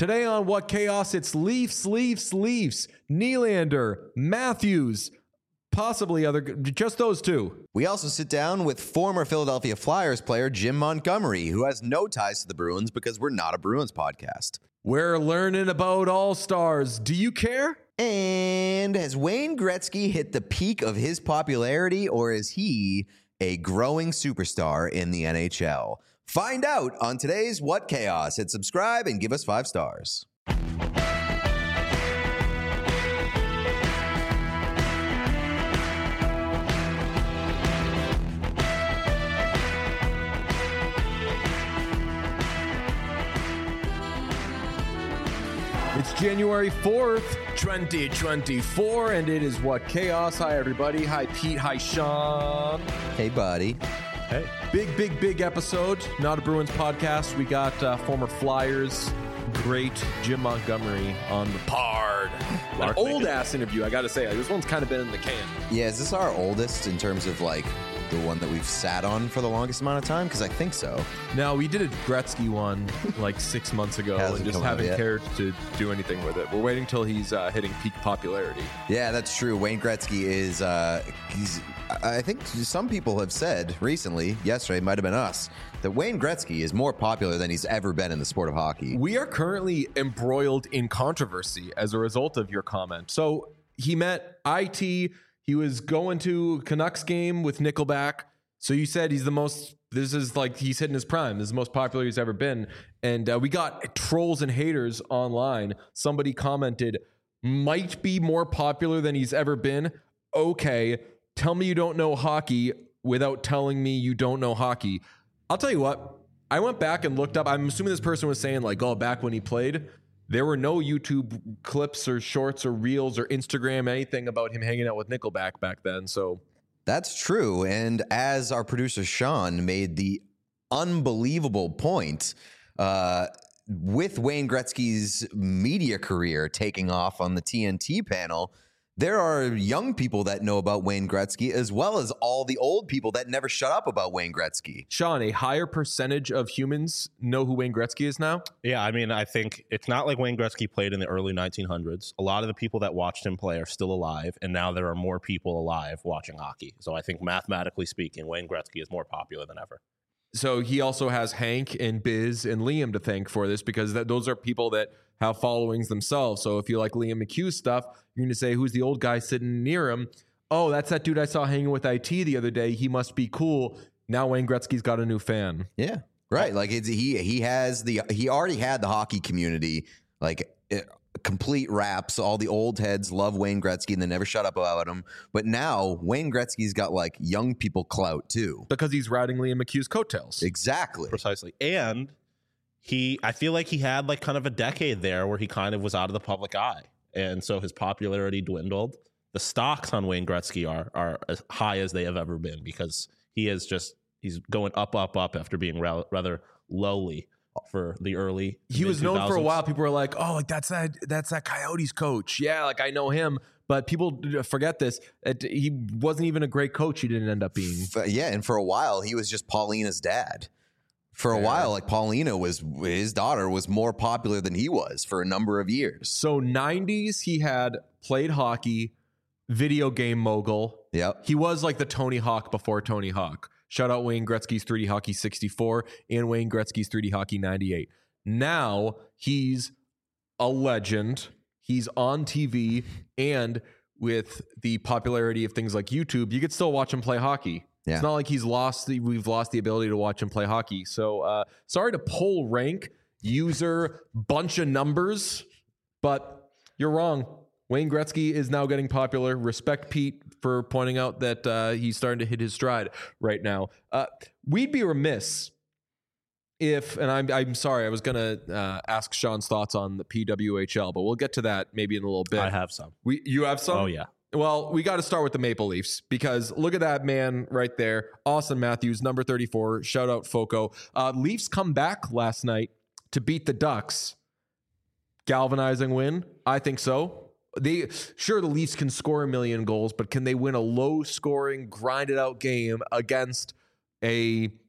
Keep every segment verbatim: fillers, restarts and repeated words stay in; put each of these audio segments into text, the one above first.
Today on What Chaos, it's Leafs, Leafs, Leafs, Nylander, Matthews, possibly other, just those two. We also sit down with former Philadelphia Flyers player Jim Montgomery, who has no ties to the Bruins because we're not a Bruins podcast. We're learning about All-Stars. Do you care? And has Wayne Gretzky hit the peak of his popularity, or is he a growing superstar in the N H L? Find out on today's What Chaos. Hit subscribe and give us five stars. It's January fourth, twenty twenty-four, and it is What Chaos. Hi, everybody. Hi, Pete. Hi, Sean. Hey, buddy. Hey. Big, big, big episode. Not a Bruins podcast. We got uh, former Flyers great Jim Montgomery on the pod. An old-ass interview, I got to say. This one's kind of been in the can. Yeah, is this our oldest in terms of, like, the one that we've sat on for the longest amount of time? Because I think so. No, we did a Gretzky one like six months ago and just haven't cared to do anything with it. We're waiting till he's uh, hitting peak popularity. Yeah, that's true. Wayne Gretzky is, uh, he's, I think some people have said recently, yesterday, might have been us, that Wayne Gretzky is more popular than he's ever been in the sport of hockey. We are currently embroiled in controversy as a result of your comment. So he met I T. He was going to Canucks game with Nickelback. So you said he's the most, this is like, he's hitting his prime. This is the most popular he's ever been. And uh, we got trolls and haters online. Somebody commented, might be more popular than he's ever been. Okay, tell me you don't know hockey without telling me you don't know hockey. I'll tell you what, I went back and looked up. I'm assuming this person was saying like, oh, back when he played, there were no YouTube clips or shorts or reels or Instagram, anything about him hanging out with Nickelback back then. So that's true. And as our producer Sean made the unbelievable point, uh, with Wayne Gretzky's media career taking off on the T N T panel, there are young people that know about Wayne Gretzky as well as all the old people that never shut up about Wayne Gretzky. Sean, a higher percentage of humans know who Wayne Gretzky is now? Yeah, I mean, I think it's not like Wayne Gretzky played in the early nineteen hundreds. A lot of the people that watched him play are still alive, and now there are more people alive watching hockey. So I think mathematically speaking, Wayne Gretzky is more popular than ever. So he also has Hank and Biz and Liam to thank for this because that, those are people that have followings themselves. So if you like Liam McHugh's stuff, you're going to say, who's the old guy sitting near him? Oh, that's that dude I saw hanging with I T the other day. He must be cool. Now Wayne Gretzky's got a new fan. Yeah, right. Like it's, he he has the he already had the hockey community like it, complete raps. All the old heads love Wayne Gretzky and they never shut up about him. But now Wayne Gretzky's got like young people clout too because he's riding Liam McHugh's coattails. Exactly, precisely, and. He, I feel like he had like kind of a decade there where he kind of was out of the public eye. And so his popularity dwindled. The stocks on Wayne Gretzky are are as high as they have ever been because he is just, he's going up, up, up after being ra- rather lowly for the early He was known for a while. People were like, oh, like that's that, that's that Coyotes coach. Yeah, like I know him. But people forget this. He wasn't even a great coach. He didn't end up being. Yeah, and for a while, he was just Paulina's dad. For a yeah. while, like Paulina was, his daughter was more popular than he was for a number of years. So nineties, he had played hockey, video game mogul. Yep. He was like the Tony Hawk before Tony Hawk. Shout out Wayne Gretzky's three D Hockey sixty-four and Wayne Gretzky's three D Hockey ninety-eight. Now he's a legend. He's on T V, and with the popularity of things like YouTube, you could still watch him play hockey. Yeah. It's not like he's lost the, we've lost the ability to watch him play hockey. So uh, sorry to pull rank, user, bunch of numbers, but you're wrong. Wayne Gretzky is now getting popular. Respect Pete for pointing out that uh, he's starting to hit his stride right now. Uh, we'd be remiss if, and I'm I'm sorry, I was going to uh, ask Sean's thoughts on the P W H L, but we'll get to that maybe in a little bit. I have some. We You have some? Oh, yeah. Well, we got to start with the Maple Leafs because look at that man right there. Austin Matthews, number thirty-four. Shout out Foco. Uh, Leafs come back last night to beat the Ducks. Galvanizing win? I think so. They sure the Leafs can score a million goals, but can they win a low-scoring, grinded-out game against a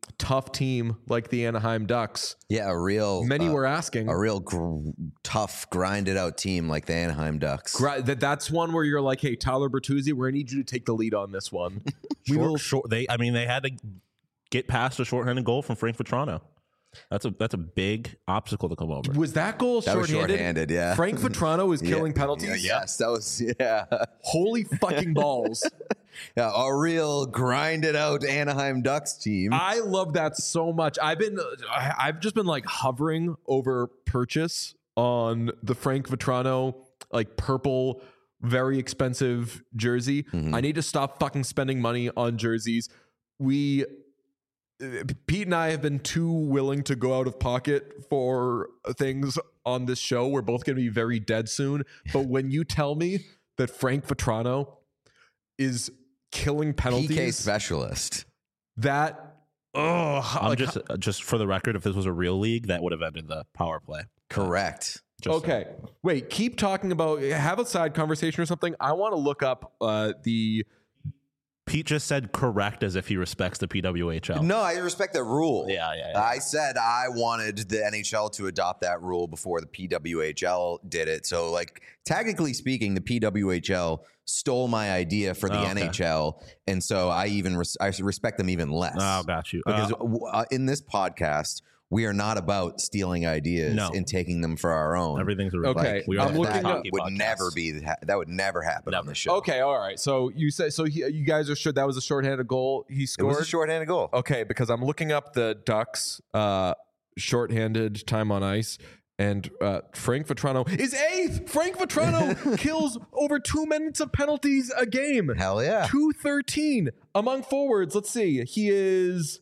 tough team like the Anaheim Ducks. Yeah, a real. Many uh, were asking. A real gr- tough, grinded out team like the Anaheim Ducks. Gra- that that's one where you're like, hey, Tyler Bertuzzi, we're gonna need you to take the lead on this one. we Short, will. short, they, I mean, they had to get past a shorthanded goal from Frank Vetrano. That's a that's a big obstacle to come over. Was that goal That was shorthanded? shorthanded, yeah. Frank Vetrano is killing Yeah, penalties. yeah, yes, that was yeah. Holy fucking balls! yeah, a real grinded out Anaheim Ducks team. I love that so much. I've been, I- I've just been like hovering over purchase on the Frank Vetrano like purple, very expensive jersey. Mhm. I need to stop fucking spending money on jerseys. We. Pete and I have been too willing to go out of pocket for things on this show. We're both going to be very dead soon. But when you tell me that Frank Vetrano is killing penalties, P K specialist. that oh, I'm like, just uh, just for the record, if this was a real league, that would have ended the power play. Correct. Just okay. Wait, keep talking about have a side conversation or something. I want to look up uh, the. Pete just said correct as if he respects the P W H L. No, I respect the rule. Yeah, yeah, yeah. I said I wanted the N H L to adopt that rule before the P W H L did it. So, like, technically speaking, the P W H L stole my idea for the Oh, okay. N H L, and so I even res- I respect them even less. Oh, got you. Because Uh, w- uh, in this podcast, we are not about stealing ideas No. and taking them for our own. everything's a Okay, we I'm are looking that up- hockey would podcast. never be ha- that would never happen on Never. the show. Okay, all right. So you say so. He, you guys are sure that was a shorthanded goal he It scored? was a shorthanded goal. Okay, because I'm looking up the Ducks uh, shorthanded time on ice, and uh, Frank Vetrano is eighth. Frank Vetrano kills over two minutes of penalties a game. Hell yeah. two thirteen among forwards. Let's see. He is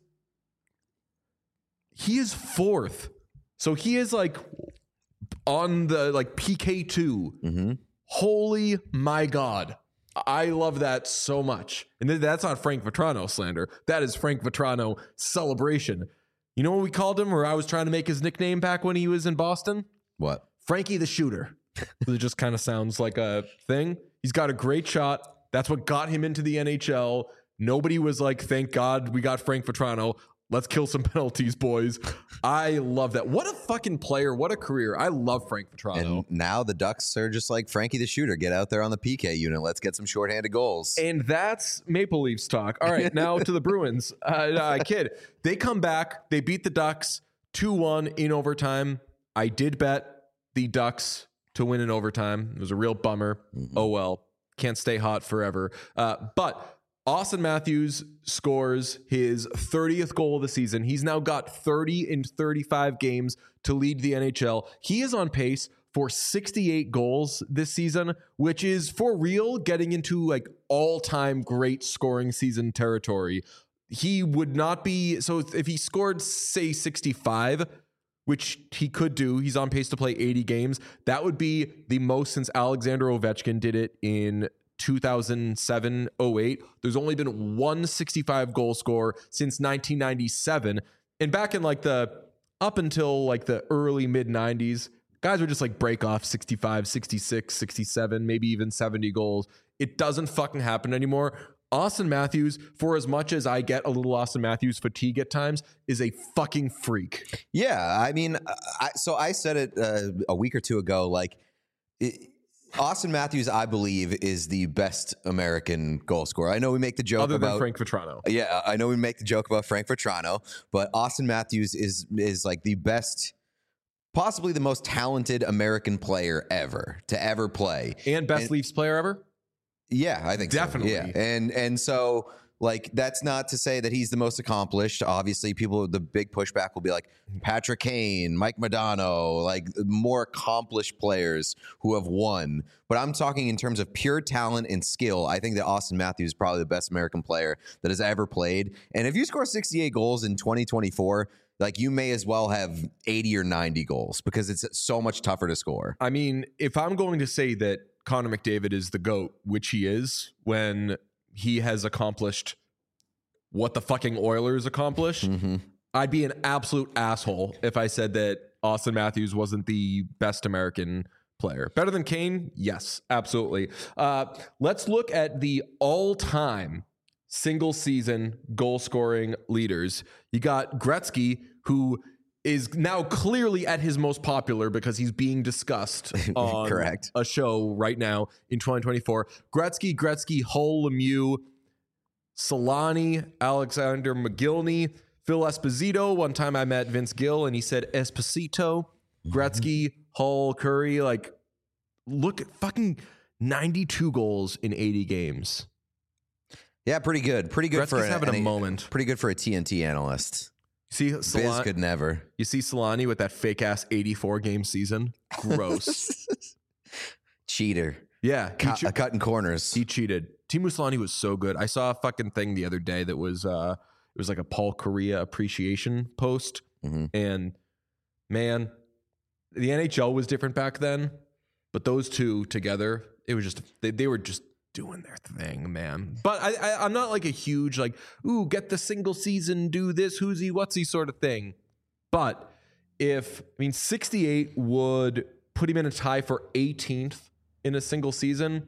he is fourth. So he is like on the like P K two. Mm-hmm. Holy my God. I love that so much. And th- that's not Frank Vetrano slander. That is Frank Vetrano celebration. You know what we called him, or I was trying to make his nickname back when he was in Boston? What? Frankie the Shooter. It just kind of sounds like a thing. He's got a great shot. That's what got him into the N H L. Nobody was like, thank God we got Frank Vetrano. Let's kill some penalties, boys. I love that. What a fucking player. What a career. I love Frank Vetrano. And now the Ducks are just like Frankie the Shooter. Get out there on the P K unit. Let's get some shorthanded goals. And that's Maple Leafs talk. All right, now to the Bruins. Uh, no, I kid. They come back. They beat the Ducks two one in overtime. I did bet the Ducks to win in overtime. It was a real bummer. Mm-hmm. Oh, well. Can't stay hot forever. Uh, but Austin Matthews scores his thirtieth goal of the season. He's now got thirty in thirty-five games to lead the N H L. He is on pace for sixty-eight goals this season, which is for real getting into like all-time great scoring season territory. He would not be, so if he scored, say, sixty-five, which he could do, he's on pace to play eighty games, that would be the most since Alexander Ovechkin did it in two thousand seven oh eight. There's only been one sixty-five goal scorer since nineteen ninety-seven. And back in like the, up until like the early mid nineties, guys would just like break off sixty-five, sixty-six, sixty-seven, maybe even seventy goals. It doesn't fucking happen anymore. Austin Matthews, for as much as I get a little Austin Matthews fatigue at times, is a fucking freak. Yeah, I mean, I, so I said it uh, a week or two ago. Like, it, Austin Matthews, I believe, is the best American goal scorer. I know we make the joke Other about than Frank Vetrano. Yeah, I know we make the joke about Frank Vetrano, but Austin Matthews is is like the best, possibly the most talented American player ever to ever play. And best And- Leafs player ever? Yeah, I think so. Definitely. Yeah, and and so like that's not to say that he's the most accomplished. Obviously, people the big pushback will be like Patrick Kane, Mike Modano, like more accomplished players who have won. But I'm talking in terms of pure talent and skill. I think that Austin Matthews is probably the best American player that has ever played. And if you score sixty-eight goals in twenty twenty-four, like you may as well have eighty or ninety goals because it's so much tougher to score. I mean, if I'm going to say that Connor McDavid is the GOAT, which he is, when he has accomplished what the fucking Oilers accomplished, Mm-hmm. I'd be an absolute asshole if I said that Austin Matthews wasn't the best American player. Better than Kane? Yes, absolutely. Uh, let's look at the all-time single season goal scoring leaders. You got Gretzky, who is now clearly at his most popular because he's being discussed on Correct. a show right now in twenty twenty-four. Gretzky, Gretzky, Hull, Lemieux, Solani, Alexander McGillney, Phil Esposito. One time I met Vince Gill and he said Esposito, Gretzky, Hull, Curry. Like, look at fucking ninety-two goals in eighty games. Yeah, pretty good. Pretty good Gretzky's for an, having a an- moment. Pretty good for a T N T analyst. See, Biz Solani, could never. you see Solani with that fake ass eighty-four game season. Gross. Cheater. Yeah, he, Cut, che- uh, cutting corners. he cheated. Teemu Solani was so good. I saw a fucking thing the other day that was uh, it was like a Paul Correa appreciation post, Mhm. and man, the N H L was different back then, but those two together, it was just they, they were just doing their thing, man. But I, I I'm not like a huge like ooh get the single season, do this, who's he, what's he sort of thing. But if I mean sixty-eight would put him in a tie for eighteenth in a single season,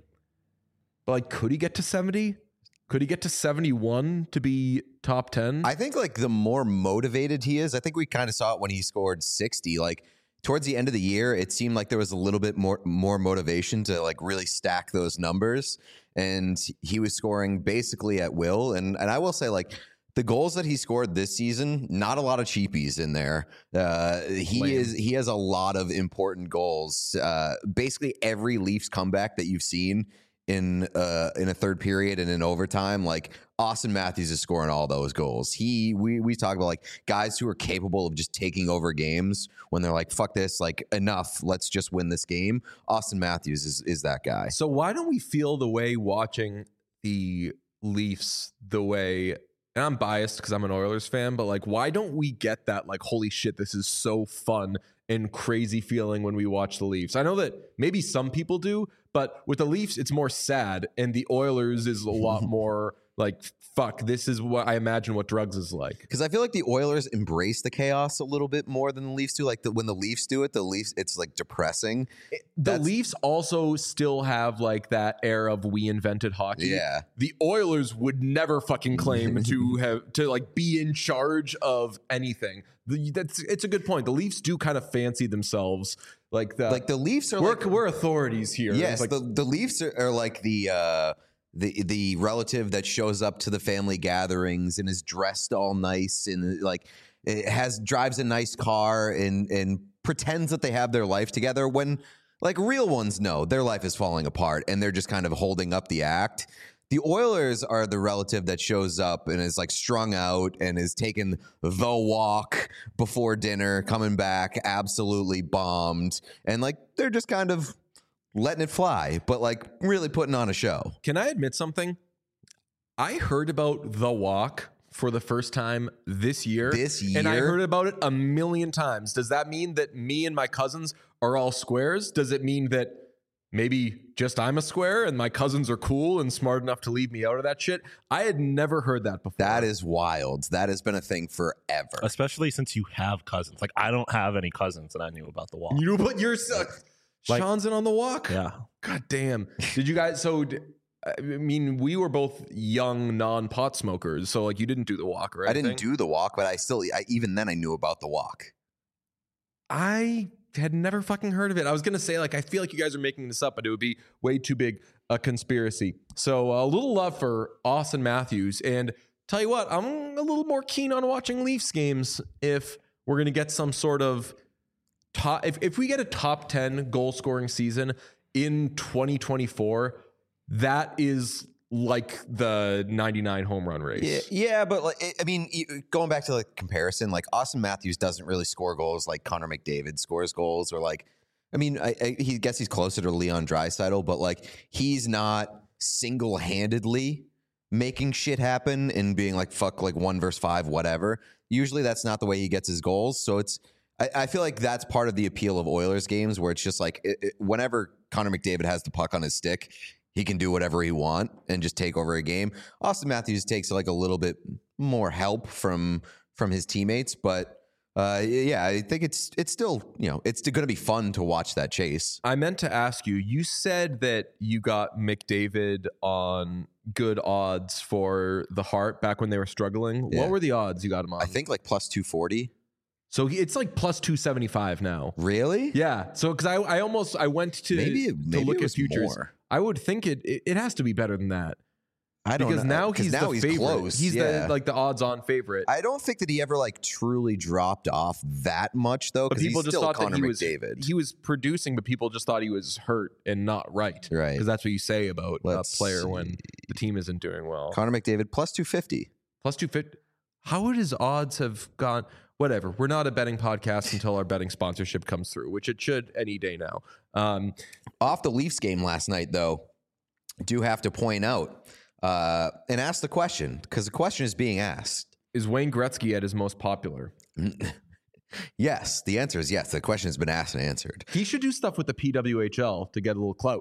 but like could he get to seventy? Could he get to seventy-one to be top ten? I think like the more motivated he is, I think we kind of saw it when he scored sixty. Like towards the end of the year, it seemed like there was a little bit more more motivation to like really stack those numbers, and he was scoring basically at will. And and I will say like the goals that he scored this season, not a lot of cheapies in there. Uh, he Lame. is he has a lot of important goals. Uh, basically every Leafs comeback that you've seen in uh in a third period and in overtime, like Austin Matthews is scoring all those goals. He we we talk about like guys who are capable of just taking over games when they're like, fuck this, like enough, let's just win this game. Austin Matthews is is that guy. So why don't we feel the way watching the Leafs the way, and I'm biased because I'm an Oilers fan, but like why don't we get that like holy shit, this is so fun and crazy feeling when we watch the Leafs? I know that maybe some people do, but with the Leafs it's more sad, and the Oilers is a lot more like fuck, this is what I imagine what drugs is like. Because I feel like the Oilers embrace the chaos a little bit more than the Leafs do. Like the, when the Leafs do it, the Leafs, it's like depressing. The That's- Leafs also still have like that air of we invented hockey. Yeah. The Oilers would never fucking claim to have to like be in charge of anything. The, that's it's a good point. The Leafs do kind of fancy themselves like that. Like the Leafs are we're like we're authorities here. Yes, It's like, the, the Leafs are, are like the uh, the the relative that shows up to the family gatherings and is dressed all nice and like it has drives a nice car and and pretends that they have their life together when like real ones know their life is falling apart and they're just kind of holding up the act. The Oilers are the relative that shows up and is like strung out and is taking the walk before dinner, coming back absolutely bombed, and like they're just kind of letting it fly, but like really putting on a show. can I admit something? I heard about The Walk for the first time this year. This And I year? heard about it a million times. Does that mean that me and my cousins are all squares? Does it mean that maybe just I'm a square and my cousins are cool and smart enough to leave me out of that shit? I had never heard that before. That is wild. That has been a thing forever. Especially since you have cousins. Like I don't have any cousins, and I knew about the Walk. You know, but you're so, Like- Sean's in on The Walk. Yeah. God damn. Did you guys? So, d- I mean, we were both young non-pot smokers, so like you didn't do The Walk or I anything. didn't do the walk, but I still, I, even then, I knew about the walk. I had never fucking heard of it. I was gonna say like I feel like you guys are making this up, but it would be way too big a conspiracy. So a little love for Austin Matthews, and tell you what, I'm a little more keen on watching Leafs games if we're gonna get some sort of top. If if we get a top ten goal scoring season in twenty twenty-four, that is like the ninety-nine home run race. Yeah, yeah, but like, I mean, you- going back to like comparison, like Austin Matthews doesn't really score goals like Connor McDavid scores goals, or like, I mean, I, I he gets he's closer to Leon Draisaitl, but like he's not single handedly making shit happen and being like fuck like one versus five, whatever. Usually that's not the way he gets his goals. So it's I, I feel like that's part of the appeal of Oilers games, where it's just like it, it, whenever Connor McDavid has the puck on his stick, he can do whatever he want and just take over a game. Austin Matthews takes like a little bit more help from from his teammates, but Uh, yeah, I think it's it's still, you know, it's going to be fun to watch that chase. I meant to ask you, you said that you got McDavid on good odds for the Hart back when they were struggling. Yeah. What were the odds you got him on? I think like plus two forty. So he, it's like plus two seventy-five now. Really? Yeah. So because I, I almost I went to, Maybe, to maybe look it at was futures. more. I would think it, it it has to be better than that. I don't because know. now he's now the he's favorite. close. He's yeah. the like the odds-on favorite. I don't think that he ever like truly dropped off that much though, But because people he's just still thought Connor that he was McDavid. he was producing, but people just thought he was hurt and not right. Right. Because that's what you say about Let's a player see. when the team isn't doing well. Connor McDavid plus two fifty. Plus two fifty. How would his odds have gone? Whatever. We're not a betting podcast until our betting sponsorship comes through, which it should any day now. Um, Off the Leafs game last night, though, do have to point out uh, and ask the question, because the question is being asked. is Wayne Gretzky at his most popular? Yes, the answer is yes. The question has been asked and answered. He should do stuff with the P W H L to get a little clout.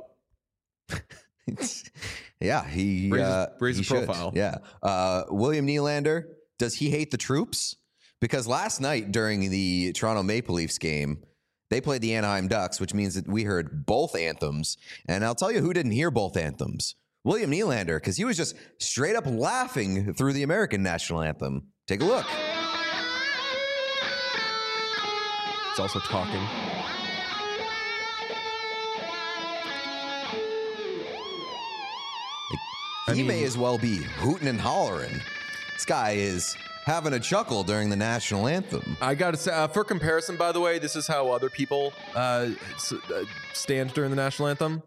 Yeah, he Raise his- uh, raise he his should. profile. Yeah, uh, William Nylander, does he hate the troops? Because last night during the Toronto Maple Leafs game, they played the Anaheim Ducks, which means that we heard both anthems. And I'll tell you who didn't hear both anthems: William Nylander, because he was just straight up laughing through the American national anthem. Take a look. It's also talking. He I mean- may as well be hooting and hollering. This guy is having a chuckle during the national anthem. I got to say, uh, for comparison, by the way, this is how other people uh, s- uh, stand during the national anthem.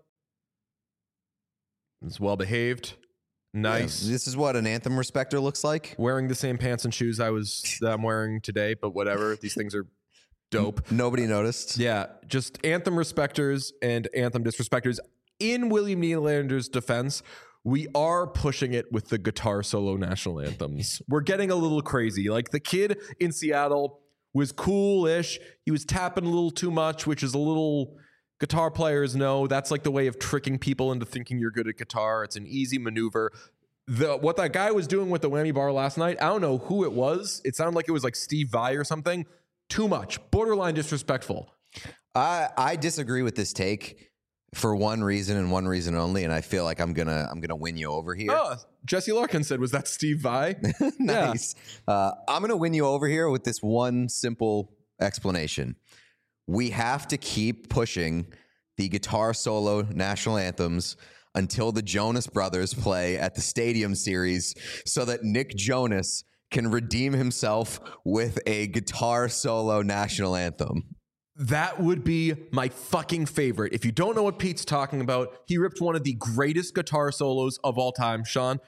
It's well behaved, nice. Yeah, this is what an anthem respecter looks like. Wearing the same pants and shoes I was that I'm wearing today, but whatever. These things are dope. Nobody noticed. Yeah, just anthem respecters and anthem disrespecters. In William Nylander's defense, we are pushing it with the guitar solo national anthems. We're getting a little crazy. Like the kid in Seattle was cool-ish. He was tapping a little too much, which is a little, guitar players know that's like the way of tricking people into thinking you're good at guitar. It's an easy maneuver. The what that guy was doing with the whammy bar last night, I don't know who it was. It sounded like it was like Steve Vai or something. Too much. Borderline disrespectful. I I disagree with this take for one reason and one reason only, and I feel like I'm gonna I'm gonna win you over here. Oh, Jesse Larkin said, was that Steve Vai? Nice. Uh, I'm gonna win you over here with this one simple explanation. We have to keep pushing the guitar solo national anthems until the Jonas Brothers play at the Stadium Series, so that Nick Jonas can redeem himself with a guitar solo national anthem. That would be my fucking favorite. If you don't know what Pete's talking about, he ripped one of the greatest guitar solos of all time. Sean,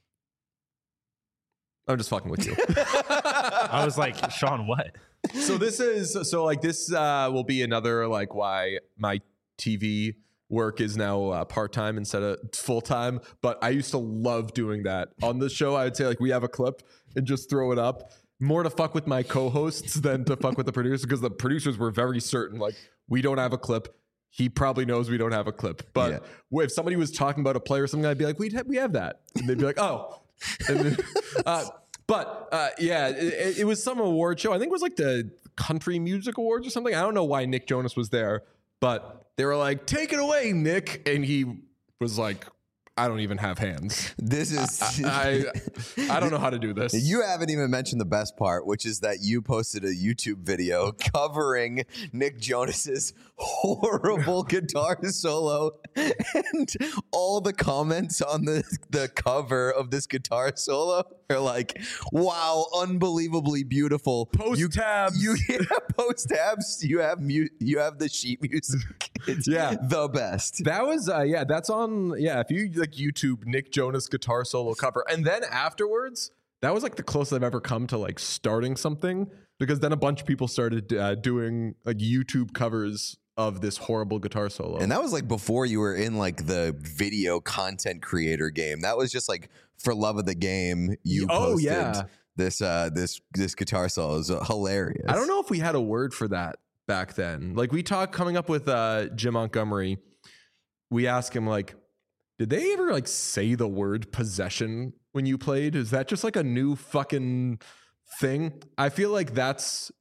I'm just fucking with you. I was like, Sean, what? So this is so like this uh, will be another like why my T V work is now uh, part time instead of full time. But I used to love doing that on the show. I would say like we have a clip and just throw it up. More to fuck with my co-hosts than to fuck with the producers, because the producers were very certain like we don't have a clip. He probably knows we don't have a clip. But Yeah. if somebody was talking about a player or something, I'd be like, we we have that, and they'd be like, oh. And then, uh, but uh, yeah, it, it was some award show. I think it was like the Country Music Awards or something. I don't know why Nick Jonas was there, but they were like, take it away, Nick. And he was like, I don't even have hands. This is I I don't know how to do this. You haven't even mentioned the best part, which is that you posted a YouTube video covering Nick Jonas's horrible guitar solo, and all the comments on the, the cover of this guitar solo are like, wow, unbelievably beautiful. Post you, tabs. You yeah, post tabs. You have mu- you have the sheet music. It's Yeah. the best. That was uh, yeah. That's on yeah. If you like YouTube Nick Jonas guitar solo cover, and then afterwards, that was like the closest I've ever come to like starting something, because then a bunch of people started uh, doing like YouTube covers of this horrible guitar solo. And that was like before you were in like the video content creator game. That was just like for love of the game. You Oh, posted yeah. this uh this this guitar solo. It was uh, hilarious. I don't know if we had a word for that back then. Like we talked coming up with uh, Jim Montgomery. We asked him like, did they ever like say the word possession when you played? Is that just like a new fucking thing? I feel like that's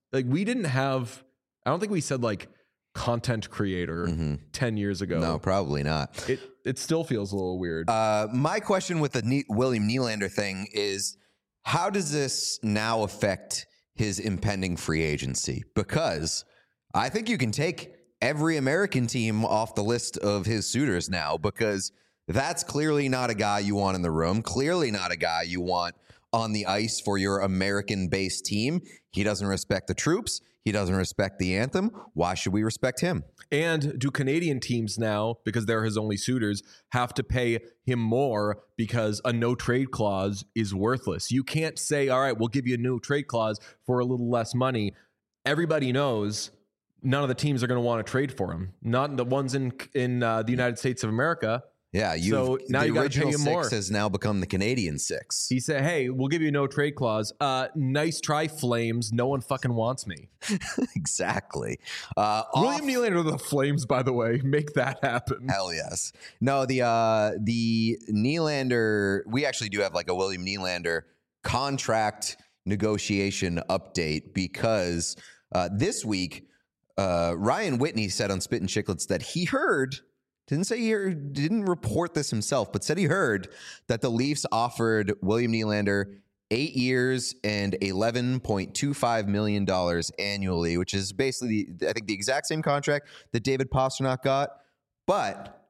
like we didn't have. I don't think we said like content creator Mm-hmm. ten years ago. No, probably not. It it still feels a little weird. Uh, my question with the ne- William Nylander thing is, how does this now affect his impending free agency? Because I think you can take every American team off the list of his suitors now, because that's clearly not a guy you want in the room, clearly not a guy you want on the ice for your American-based team. He doesn't respect the troops. He doesn't respect the anthem. Why should we respect him? And do Canadian teams now, because they're his only suitors, have to pay him more because a no trade clause is worthless? You can't say, all right, we'll give you a no trade clause for a little less money. Everybody knows none of the teams are going to want to trade for him. Not the ones in in uh, the United States of America. Yeah, you. So now the you gotta pay original him six more. has now become the Canadian six. He said, hey, we'll give you a no trade clause. Uh, nice try, Flames. No one fucking wants me. Exactly. Uh, William off- Nylander of the Flames, by the way. Make that happen. Hell yes. No, the uh, the Nylander. We actually do have like a William Nylander contract negotiation update, because uh, this week uh, Ryan Whitney said on Spit and Chicklets that he heard. Didn't say he heard, didn't report this himself, but said he heard that the Leafs offered William Nylander eight years and eleven point two five million dollars annually, which is basically, I think, the exact same contract that David Pastrnak got. But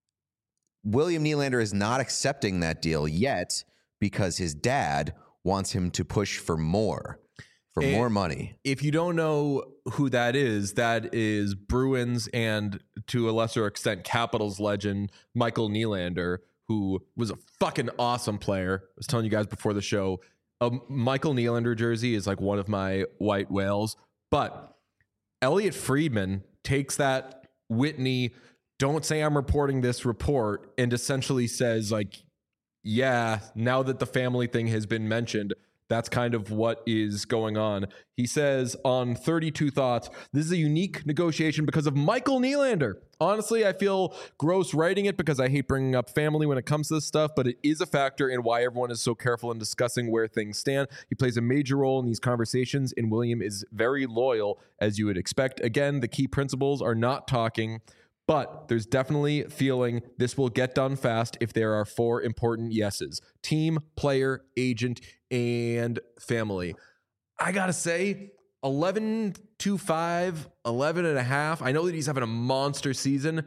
William Nylander is not accepting that deal yet because his dad wants him to push for more, for And more money. If you don't know who that is, that is Bruins and, to a lesser extent, Capitals legend Michael Nylander, who was a fucking awesome player. I was telling you guys before the show, a Michael Nylander jersey is like one of my white whales. But Elliot Friedman takes that Whitney, don't say I'm reporting this report, and essentially says, like, yeah, now that the family thing has been mentioned, that's kind of what is going on. He says on thirty-two Thoughts, this is a unique negotiation because of Michael Nylander. Honestly, I feel gross writing it because I hate bringing up family when it comes to this stuff, but it is a factor in why everyone is so careful in discussing where things stand. He plays a major role in these conversations, and William is very loyal, as you would expect. Again, the key principles are not talking, but there's definitely feeling this will get done fast if there are four important yeses: team, player, agent, and family. I gotta say, eleven to five, eleven and a half. I know that he's having a monster season.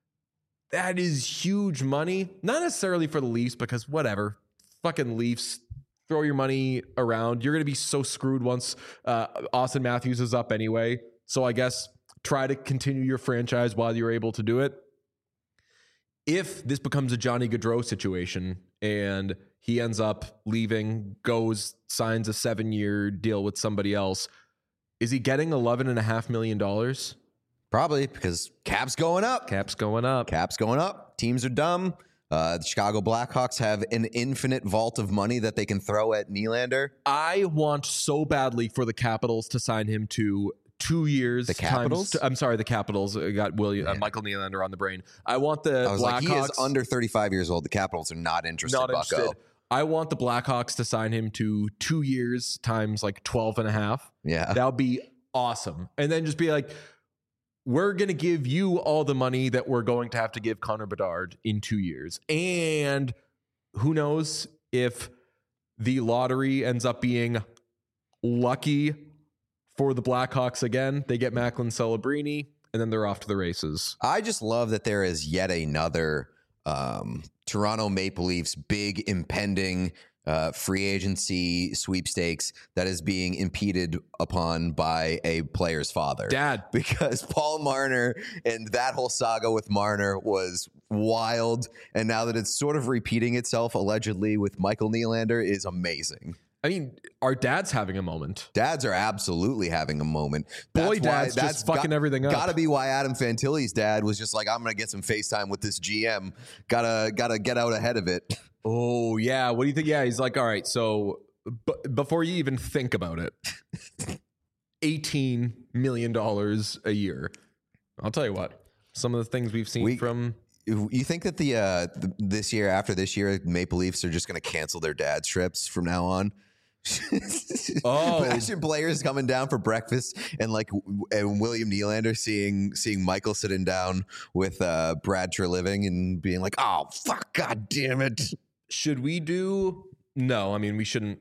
That is huge money. Not necessarily for the Leafs, because whatever. Fucking Leafs. Throw your money around. You're gonna be so screwed once uh, Austin Matthews is up anyway. So I guess try to continue your franchise while you're able to do it. If this becomes a Johnny Gaudreau situation and he ends up leaving, goes, signs a seven-year deal with somebody else, is he getting eleven and a half million dollars? Probably, because cap's going up. Cap's going up. Cap's going up. Teams are dumb. Uh, the Chicago Blackhawks have an infinite vault of money that they can throw at Nylander. I want so badly for the Capitals to sign him to two years. The Capitals? Times, I'm sorry, the Capitals. I got William, uh, Michael Nylander on the brain. I want the I was Blackhawks. like, he is under thirty-five years old. The Capitals are not interested, not Bucko. interested. I want the Blackhawks to sign him to two years times like twelve and a half. Yeah. That would be awesome. And then just be like, we're going to give you all the money that we're going to have to give Connor Bedard in two years. And who knows if the lottery ends up being lucky for the Blackhawks again. They get Macklin Celebrini, and then they're off to the races. I just love that there is yet another um, Toronto Maple Leafs big impending uh, free agency sweepstakes that is being impeded upon by a player's father. Dad. Because Paul Marner and that whole saga with Marner was wild. And now that it's sort of repeating itself allegedly with Michael Nylander is amazing. I mean, our dad's having a moment. Dads are absolutely having a moment. Boy, That's dad's why, just fucking everything up. Gotta be why Adam Fantilli's dad was just like, I'm gonna get some FaceTime with this G M. Gotta gotta get out ahead of it. Oh, yeah. What do you think? Yeah, he's like, all right, so b- before you even think about it, eighteen million dollars a year. I'll tell you what, some of the things we've seen We- from... You think that the uh th- this year after this year, Maple Leafs are just gonna cancel their dad's trips from now on? Oh. Imagine players coming down for breakfast and like w- and William Nylander seeing seeing Michael sitting down with uh, Brad Treliving and being like, "Oh fuck, god damn it!" Should we do? No, I mean we shouldn't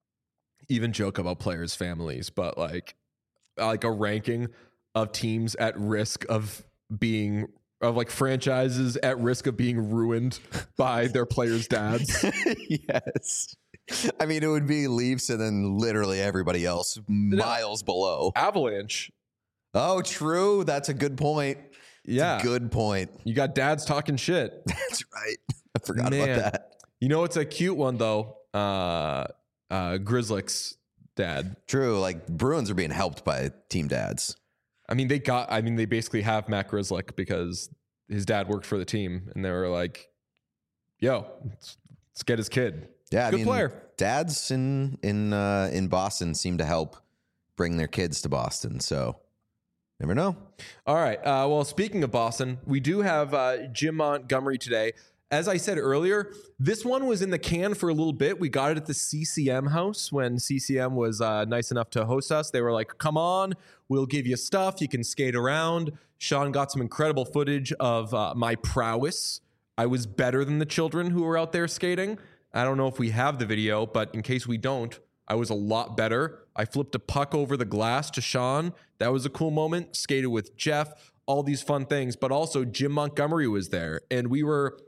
even joke about players' families, but like like a ranking of teams at risk of being of like franchises at risk of being ruined by their players' dads. Yes. I mean, it would be Leafs and then literally everybody else miles below. Avalanche. Oh, true. That's a good point. Yeah. Good point. You got dads talking shit. That's right. I forgot Man. about that. You know, it's a cute one though. Uh, uh, Grizzlick's dad. True. Like Bruins are being helped by team dads. I mean, they got, I mean, they basically have Matt Grizzlick because his dad worked for the team and they were like, yo, let's, let's get his kid. Yeah, I Good mean, player. dads in in uh, in Boston seem to help bring their kids to Boston. So, never know. All right. Uh, well, speaking of Boston, we do have uh, Jim Montgomery today. As I said earlier, this one was in the can for a little bit. We got it at the C C M house when C C M was uh, nice enough to host us. They were like, come on, we'll give you stuff. You can skate around. Sean got some incredible footage of uh, my prowess. I was better than the children who were out there skating. I don't know if we have the video, but in case we don't, I was a lot better. I flipped a puck over the glass to Sean. That was a cool moment. Skated with Jeff, all these fun things. But also Jim Montgomery was there. And we were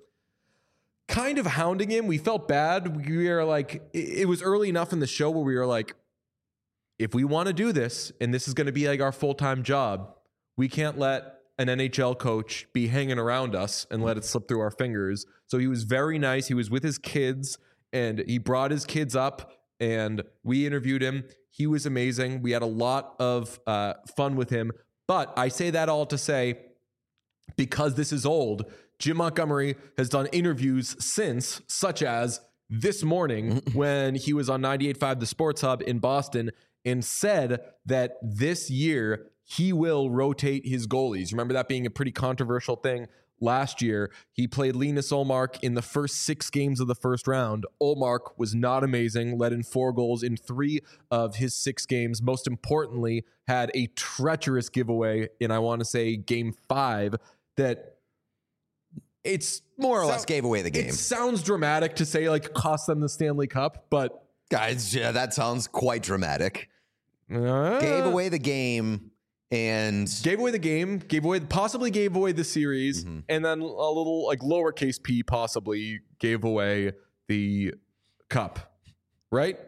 kind of hounding him. We felt bad. We were like, it was early enough in the show where we were like, if we want to do this, and this is going to be like our full-time job, we can't let an N H L coach be hanging around us and let it slip through our fingers. So he was very nice. He was with his kids and he brought his kids up and we interviewed him. He was amazing. We had a lot of uh, fun with him. But I say that all to say, because this is old, Jim Montgomery has done interviews since, such as this morning when he was on ninety-eight point five The Sports Hub in Boston and said that this year he will rotate his goalies. Remember that being a pretty controversial thing last year. He played Linus Ullmark in the first six games of the first round. Ullmark was not amazing, let in four goals in three of his six games. Most importantly, had a treacherous giveaway in, I want to say, game five that it's More or so- less gave away the game. It sounds dramatic to say like cost them the Stanley Cup, but Guys, yeah, that sounds quite dramatic. uh, Gave away the game and gave away the game, gave away, possibly gave away the series, Mhm. and then a little like lowercase p possibly gave away the cup, right?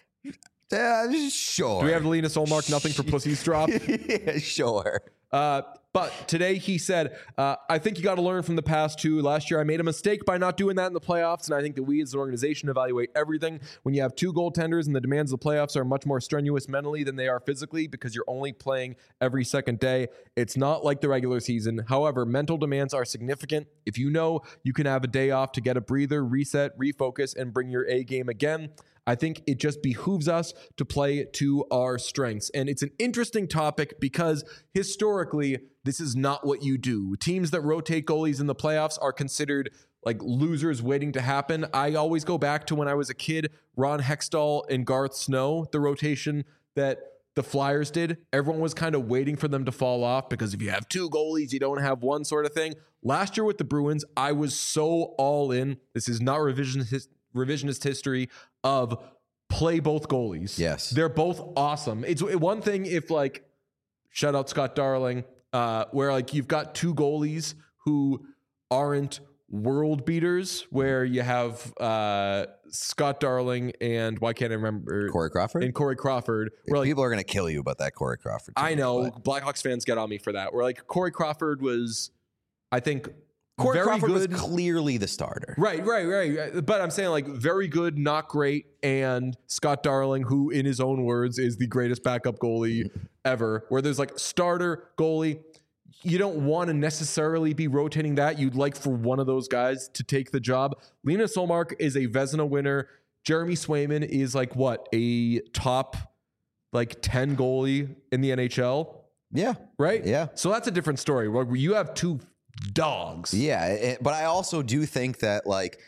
uh, sure. Do we have Linus Ullmark nothing for pussies drop? Yeah, sure. Uh, but today he said, uh, I think you got to learn from the past too. Last year I made a mistake by not doing that in the playoffs, and I think that we as an organization evaluate everything. When you have two goaltenders and the demands of the playoffs are much more strenuous mentally than they are physically because you're only playing every second day, it's not like the regular season. However, mental demands are significant. If you know you can have a day off to get a breather, reset, refocus, and bring your A game again, I think it just behooves us to play to our strengths. And it's an interesting topic because historically, this is not what you do. Teams that rotate goalies in the playoffs are considered like losers waiting to happen. I always go back to when I was a kid, Ron Hextall and Garth Snow, the rotation that the Flyers did. Everyone was kind of waiting for them to fall off because if you have two goalies, you don't have one sort of thing. Last year with the Bruins, I was so all in. This is not revisionist revisionist history of play both goalies. Yes. They're both awesome. It's one thing if like, shout out Scott Darling, uh, where like you've got two goalies who aren't world beaters, where you have uh, Scott Darling and why can't I remember? Corey Crawford? And Corey Crawford. Where like, People are going to kill you about that Corey Crawford. I team, know but- Blackhawks fans get on me for that. Where like Corey Crawford was, I think, Corey very Crawford good. was clearly the starter. Right, right, right. But I'm saying like very good, not great. And Scott Darling, who in his own words is the greatest backup goalie ever, where there's like starter goalie. You don't want to necessarily be rotating that. You'd like for one of those guys to take the job. Linus Ullmark is a Vezina winner. Jeremy Swayman is like what? A top like ten goalie in the N H L, Yeah. right? Yeah. So that's a different story where you have two dogs. Yeah. it- but I also do think that, like,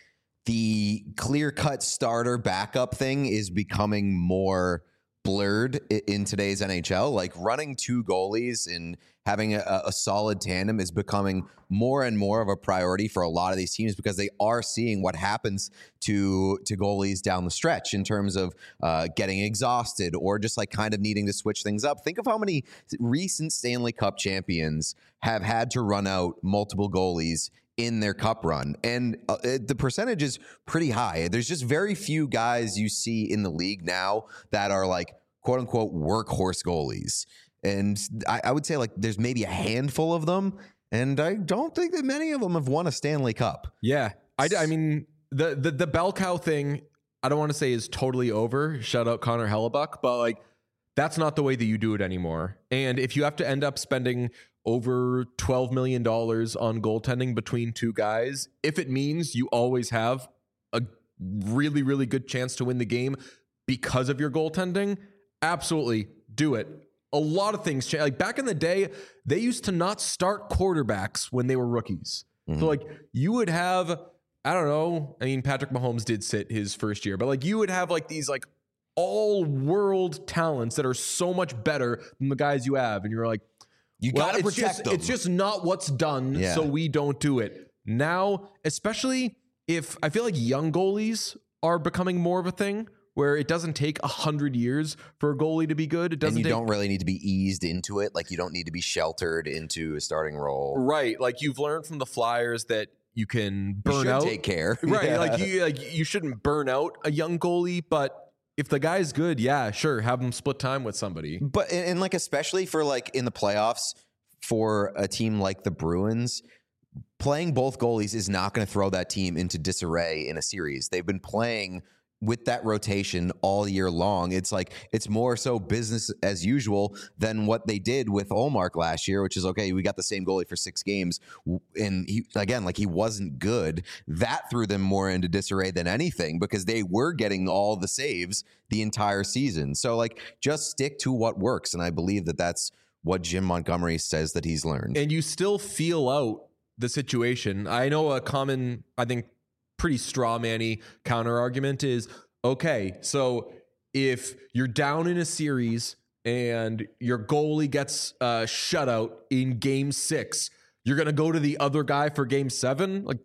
the clear-cut starter backup thing is becoming more blurred in today's N H L. Like running two goalies and having a, a solid tandem is becoming more and more of a priority for a lot of these teams because they are seeing what happens to to goalies down the stretch in terms of uh, getting exhausted or just like kind of needing to switch things up. Think of how many recent Stanley Cup champions have had to run out multiple goalies in their cup run, and uh, it, the percentage is pretty high. There's just very few guys you see in the league now that are like quote unquote workhorse goalies, and I, I would say like there's maybe a handful of them, and I don't think that many of them have won a Stanley Cup. Yeah, I, I mean the the the bell cow thing, I don't want to say is totally over. Shout out Connor Hellebuck, but like that's not the way that you do it anymore. And if you have to end up spending over twelve million dollars on goaltending between two guys, if it means you always have a really, really good chance to win the game because of your goaltending, absolutely do it. A lot of things change. Like back in the day, they used to not start quarterbacks when they were rookies. Mm-hmm. So like you would have, I don't know, I mean, Patrick Mahomes did sit his first year, but like you would have like these like all world talents that are so much better than the guys you have. And you're like, You well, gotta it's protect just, them. It's just not what's done, Yeah. so we don't do it. Now, especially if I feel like young goalies are becoming more of a thing where it doesn't take a hundred years for a goalie to be good. It doesn't and you take, don't really need to be eased into it. Like you don't need to be sheltered into a starting role. right. Like you've learned from the Flyers that you can You burn should out. take care. Right. Yeah. Like you like you shouldn't burn out a young goalie, but if the guy's good, yeah, sure, have him split time with somebody. But and, and like especially for like in the playoffs for a team like the Bruins, playing both goalies is not going to throw that team into disarray in a series. They've been playing with that rotation all year long. It's like it's more so business as usual than what they did with Ullmark last year, which is okay, we got the same goalie for six games and he again like he wasn't good. That threw them more into disarray than anything because they were getting all the saves the entire season. So like just stick to what works, and I believe that that's what Jim Montgomery says that he's learned. And you still feel out the situation. I know a common, I think, pretty straw manny counter argument is, okay, so if you're down in a series and your goalie gets a shutout in game six, you're going to go to the other guy for game seven? Like,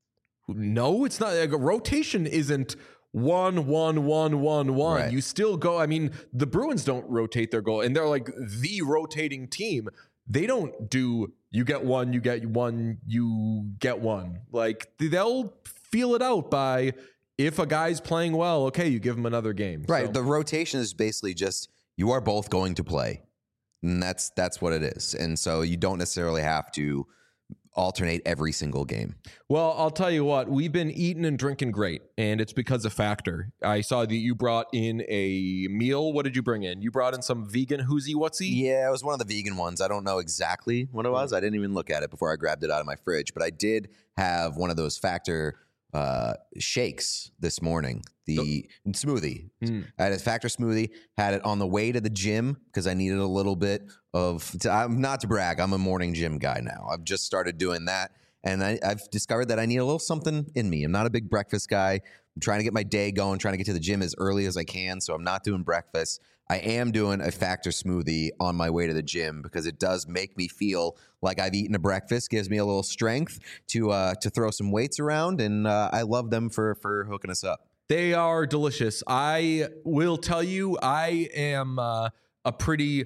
no, it's not. Like, a rotation isn't one, one, one, one, one. Right. You still go. I mean, the Bruins don't rotate their goal, and they're like the rotating team. They don't do you get one, you get one, you get one. Like they'll feel it out by if a guy's playing well, okay, you give him another game. Right. So, The rotation is basically just you are both going to play. And that's that's what it is. And so you don't necessarily have to alternate every single game. well, I'll tell you what, we've been eating and drinking great, and it's because of Factor. I saw that you brought in a meal. What did you bring in? You brought in some vegan whoosy whatsy? Yeah, it was one of the vegan ones. I don't know exactly what it was. I didn't even look at it before I grabbed it out of my fridge, but I did have one of those Factor uh, shakes this morning. The oh. smoothie. Mm. I had a Factor smoothie, had it on the way to the gym because I needed a little bit of, to, I'm not to brag, I'm a morning gym guy now. I've just started doing that. And I, I've discovered that I need a little something in me. I'm not a big breakfast guy. I'm trying to get my day going, trying to get to the gym as early as I can. So I'm not doing breakfast. I am doing a Factor smoothie on my way to the gym because it does make me feel like I've eaten a breakfast, gives me a little strength to uh, to throw some weights around. And uh, I love them for for hooking us up. They are delicious. I will tell you, I am uh, a pretty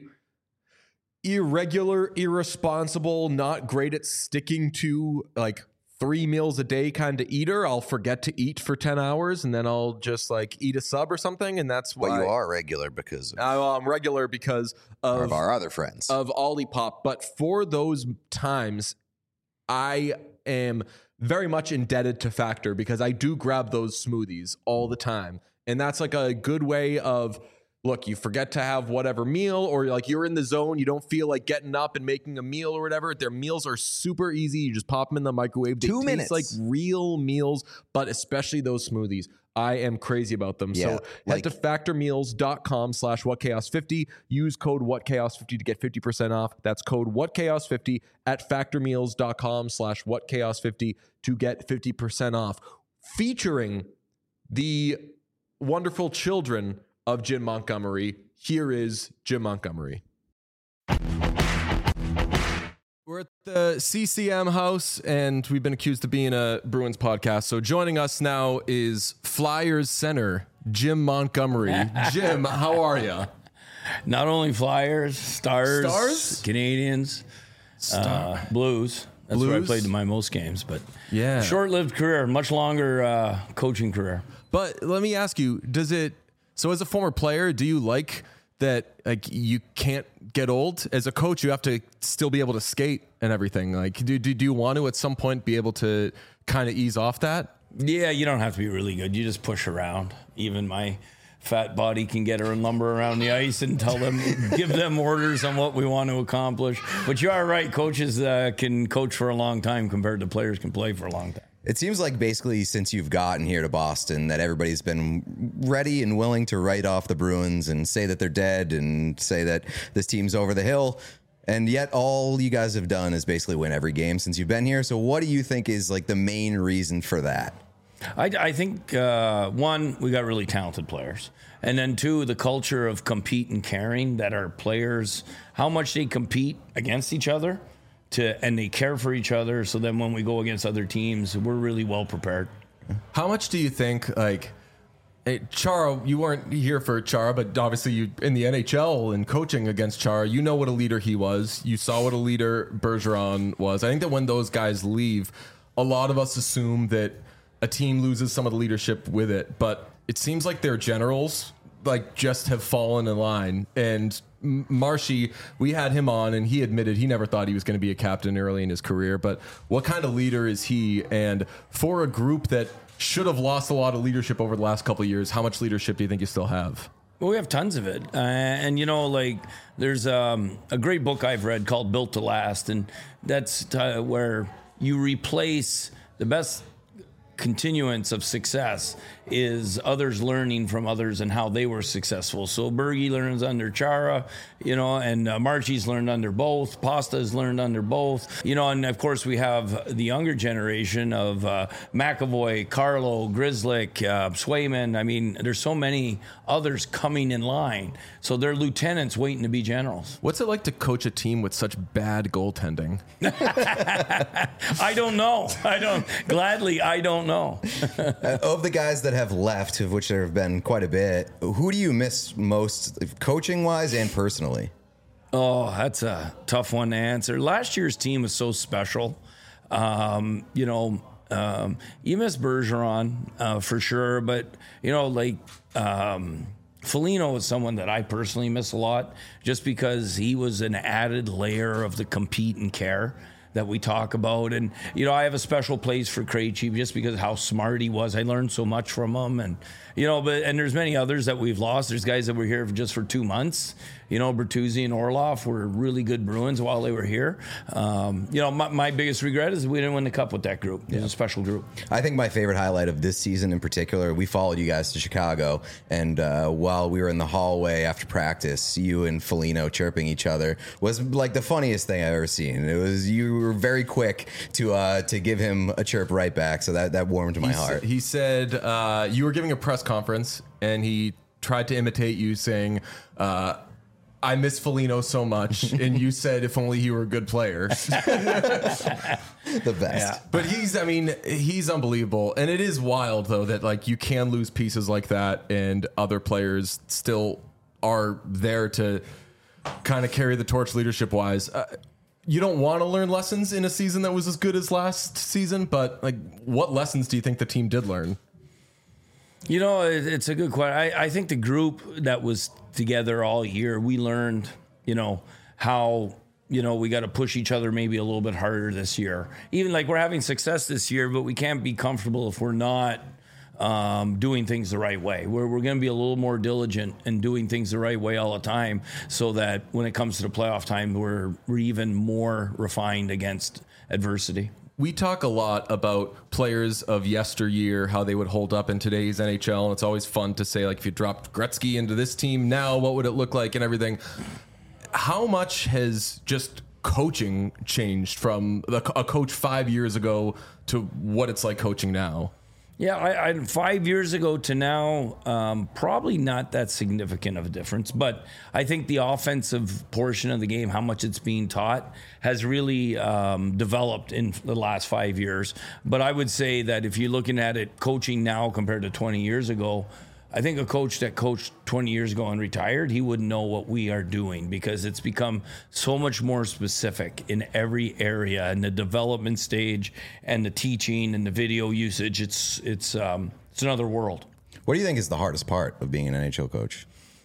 irregular, irresponsible, not great at sticking to like three meals a day kind of eater. I'll forget to eat for ten hours and then I'll just like eat a sub or something. And that's why well, you are regular because of, I, well, I'm regular because of, of our other friends of Olipop. But for those times, I am very much indebted to Factor because I do grab those smoothies all the time. And that's like a good way of, look, you forget to have whatever meal, or like you're in the zone, you don't feel like getting up and making a meal or whatever. Their meals are super easy. You just pop them in the microwave. They Two taste minutes. like real meals, but especially those smoothies. I am crazy about them. Yeah, so head like, to factormeals.com slash whatchaos50. Use code whatchaos50 to get fifty percent off. That's code whatchaos50 at factormeals.com slash whatchaos50 to get fifty percent off. featuring the wonderful children of Jim Montgomery. Here is Jim Montgomery. We're at the C C M house, and we've been accused of being a Bruins podcast. So joining us now is Flyers center, Jim Montgomery. Jim, how are you? Not only Flyers, Stars, Stars? Canadians, Star. uh, Blues. That's Blues? where I played in my most games. But Yeah. short-lived career, much longer uh, coaching career. But let me ask you, does it, so as a former player, do you like that like you can't get old? As a coach, you have to still be able to skate and everything. Like, do, do, do you want to at some point be able to kind of ease off that? Yeah, you don't have to be really good. You just push around. Even my fat body can get her and lumber around the ice and tell them, give them orders on what we want to accomplish. But you are right. Coaches uh, can coach for a long time compared to players can play for a long time. It seems like basically since you've gotten here to Boston that everybody's been ready and willing to write off the Bruins and say that they're dead and say that this team's over the hill. And yet all you guys have done is basically win every game since you've been here. So what do you think is like the main reason for that? I, I think, uh, one, we got really talented players. And then two, the culture of compete and caring that our players, how much they compete against each other. To, and they care for each other, so then when we go against other teams, we're really well prepared. How much do you think, like, hey, Chara, you weren't here for Chara, but obviously you in the N H L and coaching against Chara, you know what a leader he was. You saw what a leader Bergeron was. I think that when those guys leave, a lot of us assume that a team loses some of the leadership with it, but it seems like their generals like just have fallen in line. And Marshy, we had him on and he admitted he never thought he was going to be a captain early in his career, but what kind of leader is he? And for a group that should have lost a lot of leadership over the last couple of years, how much leadership do you think you still have? Well, we have tons of it. Uh, and, you know, like there's um, a great book I've read called Built to Last. And that's t- where you replace the best continuance of success is others learning from others and how they were successful. So Bergie learns under Chara, you know, and uh, Marchie's learned under both. Pasta's learned under both, you know, and of course we have the younger generation of uh, McAvoy, Carlo, Grzelcyk, uh, Swayman. I mean, there's so many others coming in line. So they're lieutenants waiting to be generals. What's it like to coach a team with such bad goaltending? I don't know. I don't. Gladly, I don't know. uh, of the guys that have left, of which there have been quite a bit, who do you miss most, coaching wise and personally? Oh, that's a tough one to answer. Last year's team was so special. Um, you know, um, you miss Bergeron uh, for sure, but you know, like um, Foligno is someone that I personally miss a lot, just because he was an added layer of the compete and care that we talk about. And, you know, I have a special place for Krejci just because of how smart he was. I learned so much from him. And, you know, but, and there's many others that we've lost. There's guys that were here for just for two months. You know, Bertuzzi and Orlov were really good Bruins while they were here. Um, you know, my, my biggest regret is we didn't win the cup with that group. It was a special group. I think my favorite highlight of this season in particular, we followed you guys to Chicago, and uh, while we were in the hallway after practice, you and Foligno chirping each other was like the funniest thing I've ever seen. It was, you were very quick to uh, to give him a chirp right back, so that, that warmed my he heart. Sa- he said uh, you were giving a press conference, and he tried to imitate you saying, uh, I miss Foligno so much, and you said if only he were a good player. The best. Yeah. But he's, I mean, he's unbelievable. And it is wild, though, that like you can lose pieces like that and other players still are there to kind of carry the torch leadership wise. Uh, you don't want to learn lessons in a season that was as good as last season, but like what lessons do you think the team did learn? You know, it, it's a good question. I, I think the group that was together all year, we learned, you know, how, you know, we got to push each other maybe a little bit harder this year. Even like we're having success this year, but we can't be comfortable if we're not um, doing things the right way. We're, we're going to be a little more diligent and doing things the right way all the time so that when it comes to the playoff time, we're, we're even more refined against adversity. We talk a lot about players of yesteryear, how they would hold up in today's N H L. And it's always fun to say, like, if you dropped Gretzky into this team now, what would it look like and everything? How much has just coaching changed from a coach five years ago to what it's like coaching now? Yeah, I, I, five years ago to now, um, probably not that significant of a difference. But I think the offensive portion of the game, how much it's being taught, has really um, developed in the last five years. But I would say that if you're looking at it, coaching now compared to twenty years ago, I think a coach that coached twenty years ago and retired, he wouldn't know what we are doing because it's become so much more specific in every area, in the development stage and the teaching and the video usage. It's it's um, it's another world. What do you think is the hardest part of being an N H L coach?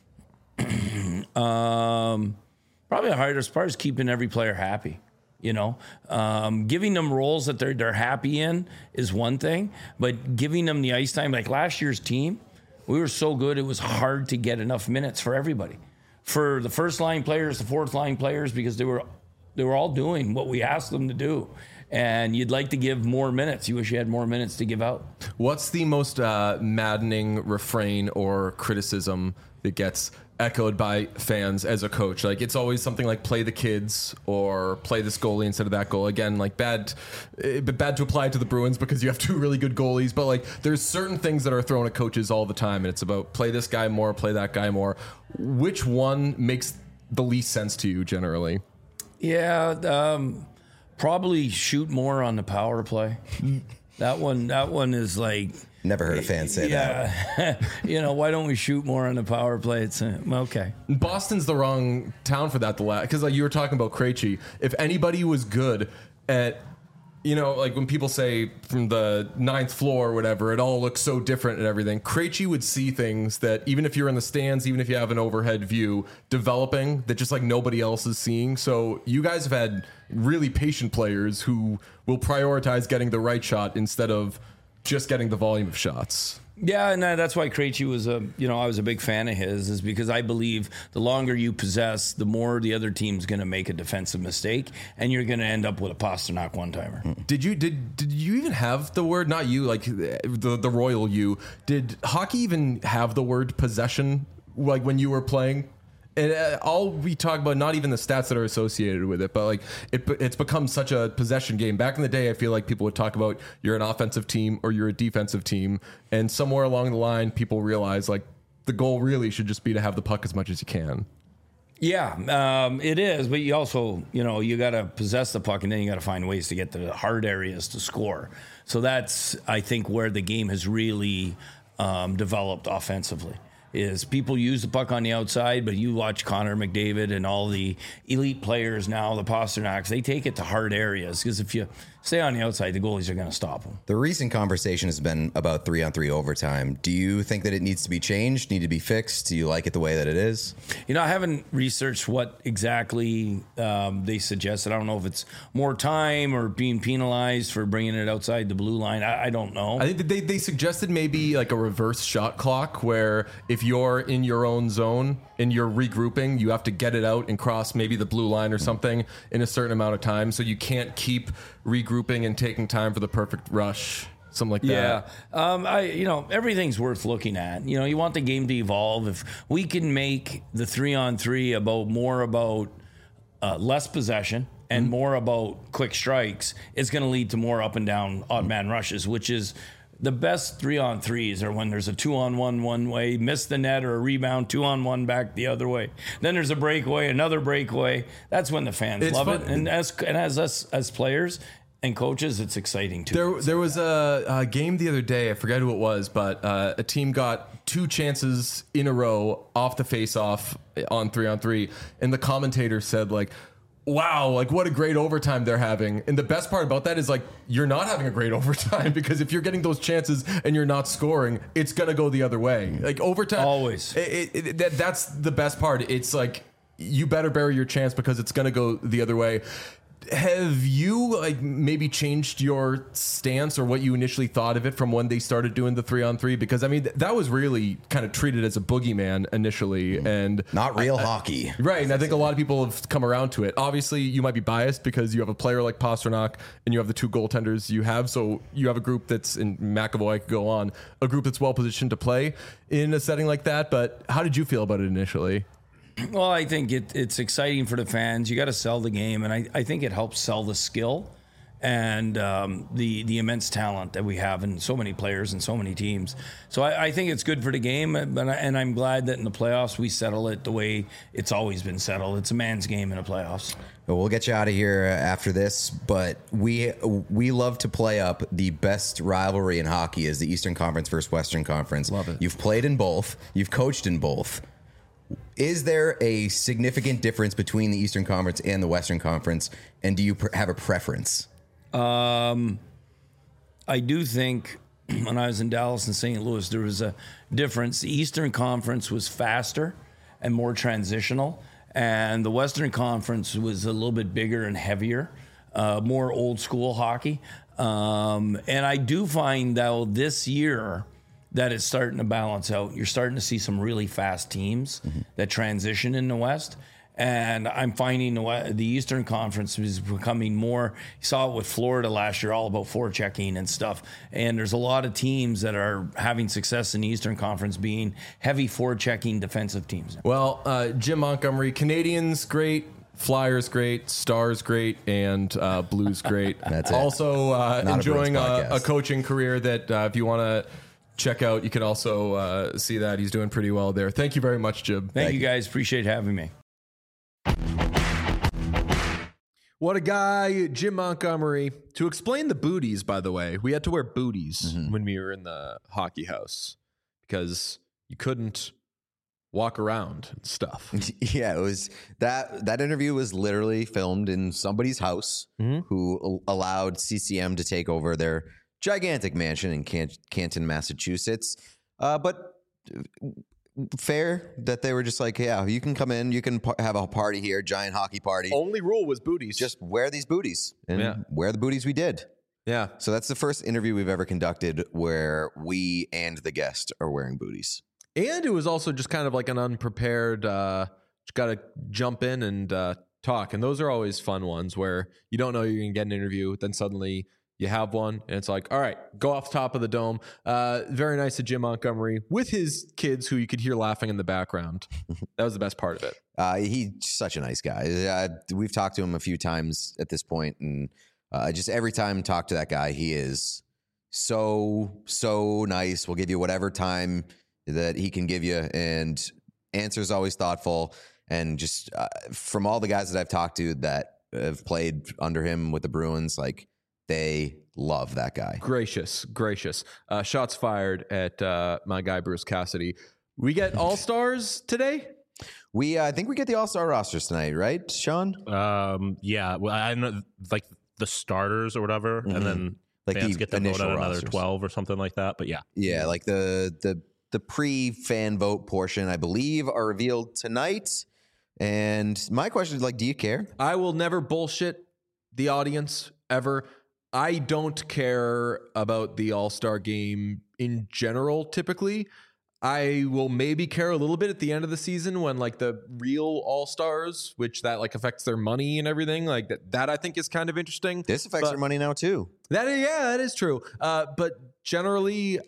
um, probably the hardest part is keeping every player happy. You know, um, giving them roles that they're they're happy in is one thing, but giving them the ice time, like last year's team. We were so good, it was hard to get enough minutes for everybody. For the first line players, the fourth line players, because they were they were all doing what we asked them to do. And you'd like to give more minutes. You wish you had more minutes to give out. What's the most uh, maddening refrain or criticism that gets echoed by fans as a coach? Like, it's always something like play the kids or play this goalie instead of that goal. Again, like bad, eh, bad to apply to the Bruins because you have two really good goalies. But like, there's certain things that are thrown at coaches all the time, and it's about play this guy more, play that guy more. Which one makes the least sense to you generally? Yeah, um, probably shoot more on the power play. That one, that one is like. Never heard a fan say yeah. that. You know, why don't we shoot more on the power play? It's uh, okay. Boston's the wrong town for that. The last, because like you were talking about Krejci. If anybody was good at, you know, like when people say from the ninth floor or whatever, it all looks so different and everything. Krejci would see things that even if you're in the stands, even if you have an overhead view, developing that just like nobody else is seeing. So you guys have had really patient players who will prioritize getting the right shot instead of just getting the volume of shots. Yeah, and that's why Krejci was a, you know, I was a big fan of his, is because I believe the longer you possess, the more the other team's going to make a defensive mistake, and you're going to end up with a Pasternak one-timer. Did you did did you even have the word, not you, like the the royal you? Did hockey even have the word possession, like when you were playing? And uh, all we talk about, not even the stats that are associated with it, but like it, it's become such a possession game. Back in the day, I feel like people would talk about you're an offensive team or you're a defensive team. And somewhere along the line, people realize like the goal really should just be to have the puck as much as you can. Yeah, um, it is. But you also, you know, you got to possess the puck and then you got to find ways to get to the hard areas to score. So that's, I think, where the game has really um, developed offensively. Is people use the puck on the outside, but you watch Connor McDavid and all the elite players now, the Pasternaks, they take it to hard areas because if you stay on the outside, the goalies are going to stop them. The recent conversation has been about three on three overtime. Do you think that it needs to be changed, need to be fixed? Do you like it the way that it is? You know, I haven't researched what exactly um, they suggested. I don't know if it's more time or being penalized for bringing it outside the blue line. I, I don't know. I think they, they suggested maybe like a reverse shot clock where if you're in your own zone and you're regrouping, you have to get it out and cross maybe the blue line or something in a certain amount of time. So you can't keep regrouping and taking time for the perfect rush, something like yeah. that. Yeah, um, I you know everything's worth looking at. You know, you want the game to evolve. If we can make the three on three about more about uh, less possession and mm-hmm. more about quick strikes, it's going to lead to more up and down odd man rushes, which is. The best three on threes are when there's a two on one one way, miss the net or a rebound, two on one back the other way. Then there's a breakaway, another breakaway. That's when the fans it's love fun. it. And as and as us as players and coaches, it's exciting too. There, there was a, a game the other day. I forget who it was, but uh, a team got two chances in a row off the face-off on three on three, and the commentator said like, wow, like what a great overtime they're having. And the best part about that is like you're not having a great overtime because if you're getting those chances and you're not scoring, it's going to go the other way. Like overtime. Always. It, it, it, that, that's the best part. It's like you better bury your chance because it's going to go the other way. Have you like maybe changed your stance or what you initially thought of it from when they started doing the three on three? Because I mean, th- that was really kind of treated as a boogeyman initially and not real I, hockey. I, right. And I think a lot of people have come around to it. Obviously you might be biased because you have a player like Pasternak and you have the two goaltenders you have. So you have a group that's in McAvoy could go on a group that's well positioned to play in a setting like that. But how did you feel about it initially? Well, I think it, it's exciting for the fans. You got to sell the game, and I, I think it helps sell the skill. and um, the the immense talent that we have in so many players and so many teams. So I, I think it's good for the game, but I, and I'm glad that in the playoffs we settle it the way it's always been settled. It's a man's game in the playoffs. We'll get you out of here after this, but we we love to play up the best rivalry in hockey is the Eastern Conference versus Western Conference. Love it. You've played in both. You've coached in both. Is there a significant difference between the Eastern Conference and the Western Conference, and do you pr- have a preference? Um, I do think when I was in Dallas and Saint Louis, there was a difference. The Eastern Conference was faster and more transitional, and the Western Conference was a little bit bigger and heavier, uh, more old school hockey. Um, and I do find, though, this year that it's starting to balance out. You're starting to see some really fast teams mm-hmm. that transition in the West. And I'm finding the, the Eastern Conference is becoming more, you saw it with Florida last year, all about forechecking and stuff. And there's a lot of teams that are having success in the Eastern Conference being heavy forechecking defensive teams. Well, uh, Jim Montgomery, Canadians, great. Flyers, great. Stars, great. And uh, Blues, great. That's it. Also uh, enjoying a, a, a coaching career that uh, if you want to check out, you can also uh, see that he's doing pretty well there. Thank you very much, Jim. Thank, Thank you you guys. Appreciate having me. What a guy, Jim Montgomery. To explain the booties, by the way, we had to wear booties mm-hmm. when we were in the hockey house because you couldn't walk around and stuff. Yeah, it was that that interview was literally filmed in somebody's house mm-hmm. who allowed C C M to take over their gigantic mansion in Can- Canton, Massachusetts. Uh, but fair that they were just like, yeah, you can come in, you can par- have a party here, giant hockey party. Only rule was booties. Just wear these booties, and yeah. wear the booties we did. Yeah. So that's the first interview we've ever conducted where we and the guest are wearing booties. And it was also just kind of like an unprepared, uh, just got to jump in and uh, talk. And those are always fun ones where you don't know you're going to get an interview, then suddenly you have one, and it's like, all right, go off the top of the dome. Uh, very nice of Jim Montgomery with his kids who you could hear laughing in the background. That was the best part of it. Uh, he's such a nice guy. Uh, we've talked to him a few times at this point, and uh, just every time I talk to that guy, he is so, so nice. We'll give you whatever time that he can give you, and answers always thoughtful. And just uh, from all the guys that I've talked to that have played under him with the Bruins, like, they love that guy. Gracious, gracious. Uh, shots fired at uh, my guy, Bruce Cassidy. We get all-stars today? We, uh, I think we get the all-star rosters tonight, right, Sean? Um, yeah. Well, I know, like, the starters or whatever, mm-hmm. and then like fans the get to vote on another rosters. twelve or something like that. But yeah. Yeah, like the the the pre-fan vote portion, I believe, are revealed tonight. And my question is, like, do you care? I will never bullshit the audience, ever. I don't care about the All-Star game in general, typically. I will maybe care a little bit at the end of the season when, like, the real All-Stars, which that, like, affects their money and everything, like, that, that I think is kind of interesting. This affects but their money now, too. That is, yeah, that is true. Uh, but generally,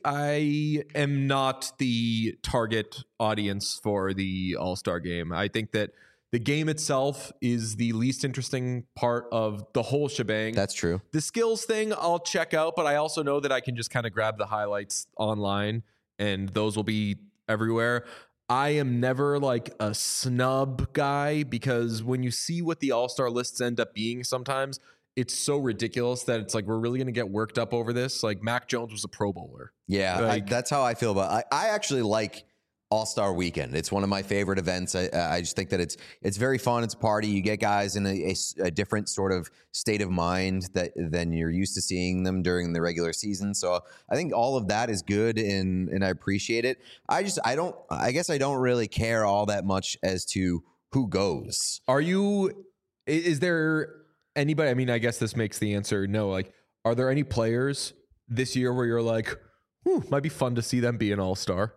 I am not the target audience for the All-Star game. I think that the game itself is the least interesting part of the whole shebang. That's true. The skills thing I'll check out, but I also know that I can just kind of grab the highlights online and those will be everywhere. I am never like a snub guy because when you see what the all-star lists end up being sometimes, it's so ridiculous that it's like, we're really going to get worked up over this. Like Mac Jones was a Pro Bowler. Yeah, like, I, that's how I feel about it. I, I actually like All-Star Weekend. It's one of my favorite events. I, I just think that it's it's very fun. It's a party. You get guys in a, a, a different sort of state of mind that than you're used to seeing them during the regular season. So I think all of that is good, and and I appreciate it. I just I don't. I guess I don't really care all that much as to who goes. Are you? Is there anybody? I mean, I guess this makes the answer no. Like, are there any players this year where you're like, whew, might be fun to see them be an all-star?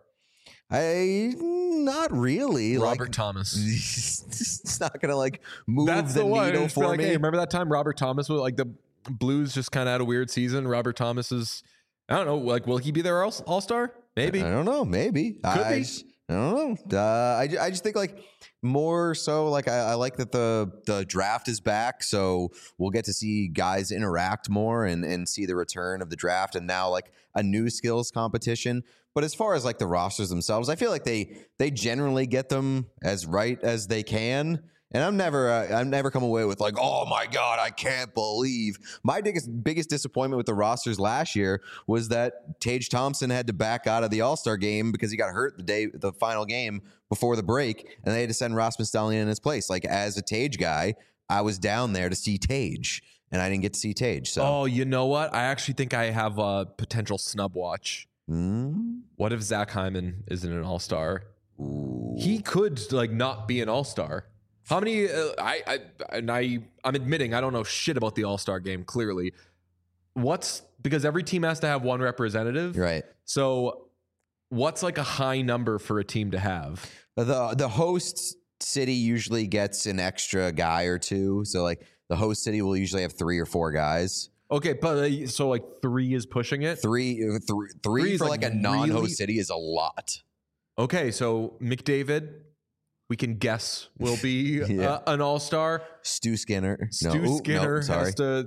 I not really. Robert like, Thomas. It's not gonna like move That's the, the one. needle for like, me. hey, remember that time Robert Thomas was like the Blues just kind of had a weird season. Robert Thomas is, I don't know, like will he be their all star? Maybe. I don't know. Maybe. Could I, be. I don't know. Uh, I, I just think like more so like I, I like that the the draft is back, so we'll get to see guys interact more and and see the return of the draft, and now like a new skills competition. But as far as like the rosters themselves, I feel like they they generally get them as right as they can. And I'm never, uh, I'm never come away with like, oh my God, I can't believe. My biggest, biggest disappointment with the rosters last year was that Tage Thompson had to back out of the All-Star game because he got hurt the day, the final game before the break, and they had to send Rasmus Dahlin in his place. Like as a Tage guy, I was down there to see Tage, and I didn't get to see Tage. So, Oh, you know what? I actually think I have a potential snub watch. Mm. What if Zach Hyman isn't an all-star? Ooh. He could like not be an all-star. How many? Uh, I, I and I I'm admitting I don't know shit about the All-Star game. Clearly, what's because every team has to have one representative, Right. So, what's like a high number for a team to have? The the host city usually gets an extra guy or two. So like the host city will usually have three or four guys. Okay, but uh, so like three is pushing it. Three, uh, three, three, Three is, for like, like, a non-host really- city is a lot. Okay, so McDavid, we can guess will be Yeah. uh, an all-star. Stu Skinner. Stu no, ooh, Skinner no, sorry. has to.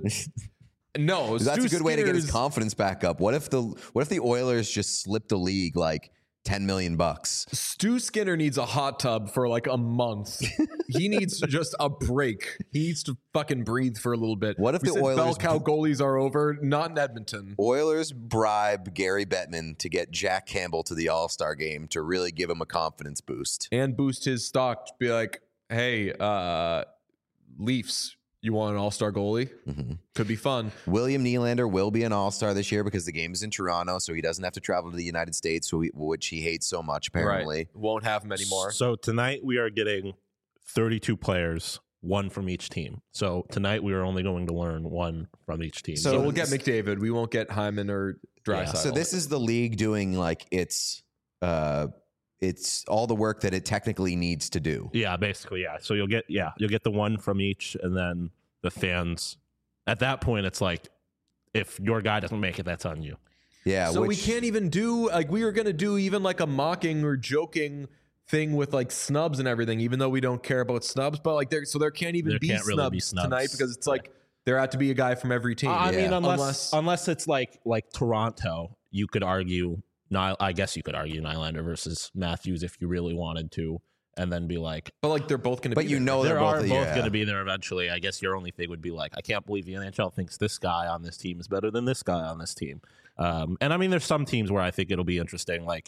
No, That's Stu a good way to get his Skinner's- confidence back up. What if the What if the Oilers just slipped the league like ten million bucks? Stu Skinner needs a hot tub for like a month. He needs just a break. He needs to fucking breathe for a little bit. What if we the said Oilers- bell cow goalies are over? Not in Edmonton. Oilers bribe Gary Bettman to get Jack Campbell to the All-Star game to really give him a confidence boost. And boost his stock. Be like, hey, uh, Leafs, you want an all-star goalie? Mm-hmm. Could be fun. William Nylander will be an All-Star this year because the game is in Toronto, so he doesn't have to travel to the United States, so he- which he hates so much, apparently. Right. Won't have him anymore. So tonight we are getting thirty-two players, one from each team. So tonight we are only going to learn one from each team. So, So we'll get this- McDavid. We won't get Hyman or Draisaitl. So this is the league doing like its, uh, it's all the work that it technically needs to do. Yeah, basically, yeah. So you'll get yeah, you'll get the one from each, and then the fans. At that point, it's like if your guy doesn't make it, that's on you. Yeah, so we which, can't even do like we were gonna do even like a mocking or joking thing with like snubs and everything, even though we don't care about snubs. But like there, so there can't even There be, can't snubs really be snubs. tonight because it's like there had to be a guy from every team. I mean, Yeah. unless, Unless- unless it's like like Toronto, you could argue. Nyl- I guess you could argue Nylander versus Matthews if you really wanted to, and then be like, but like they're both gonna. but be you there. know there they're are both, both yeah. going to be there eventually. I guess your only thing would be like, I can't believe the N H L thinks this guy on this team is better than this guy on this team. Um, and I mean, there's some teams where I think it'll be interesting, like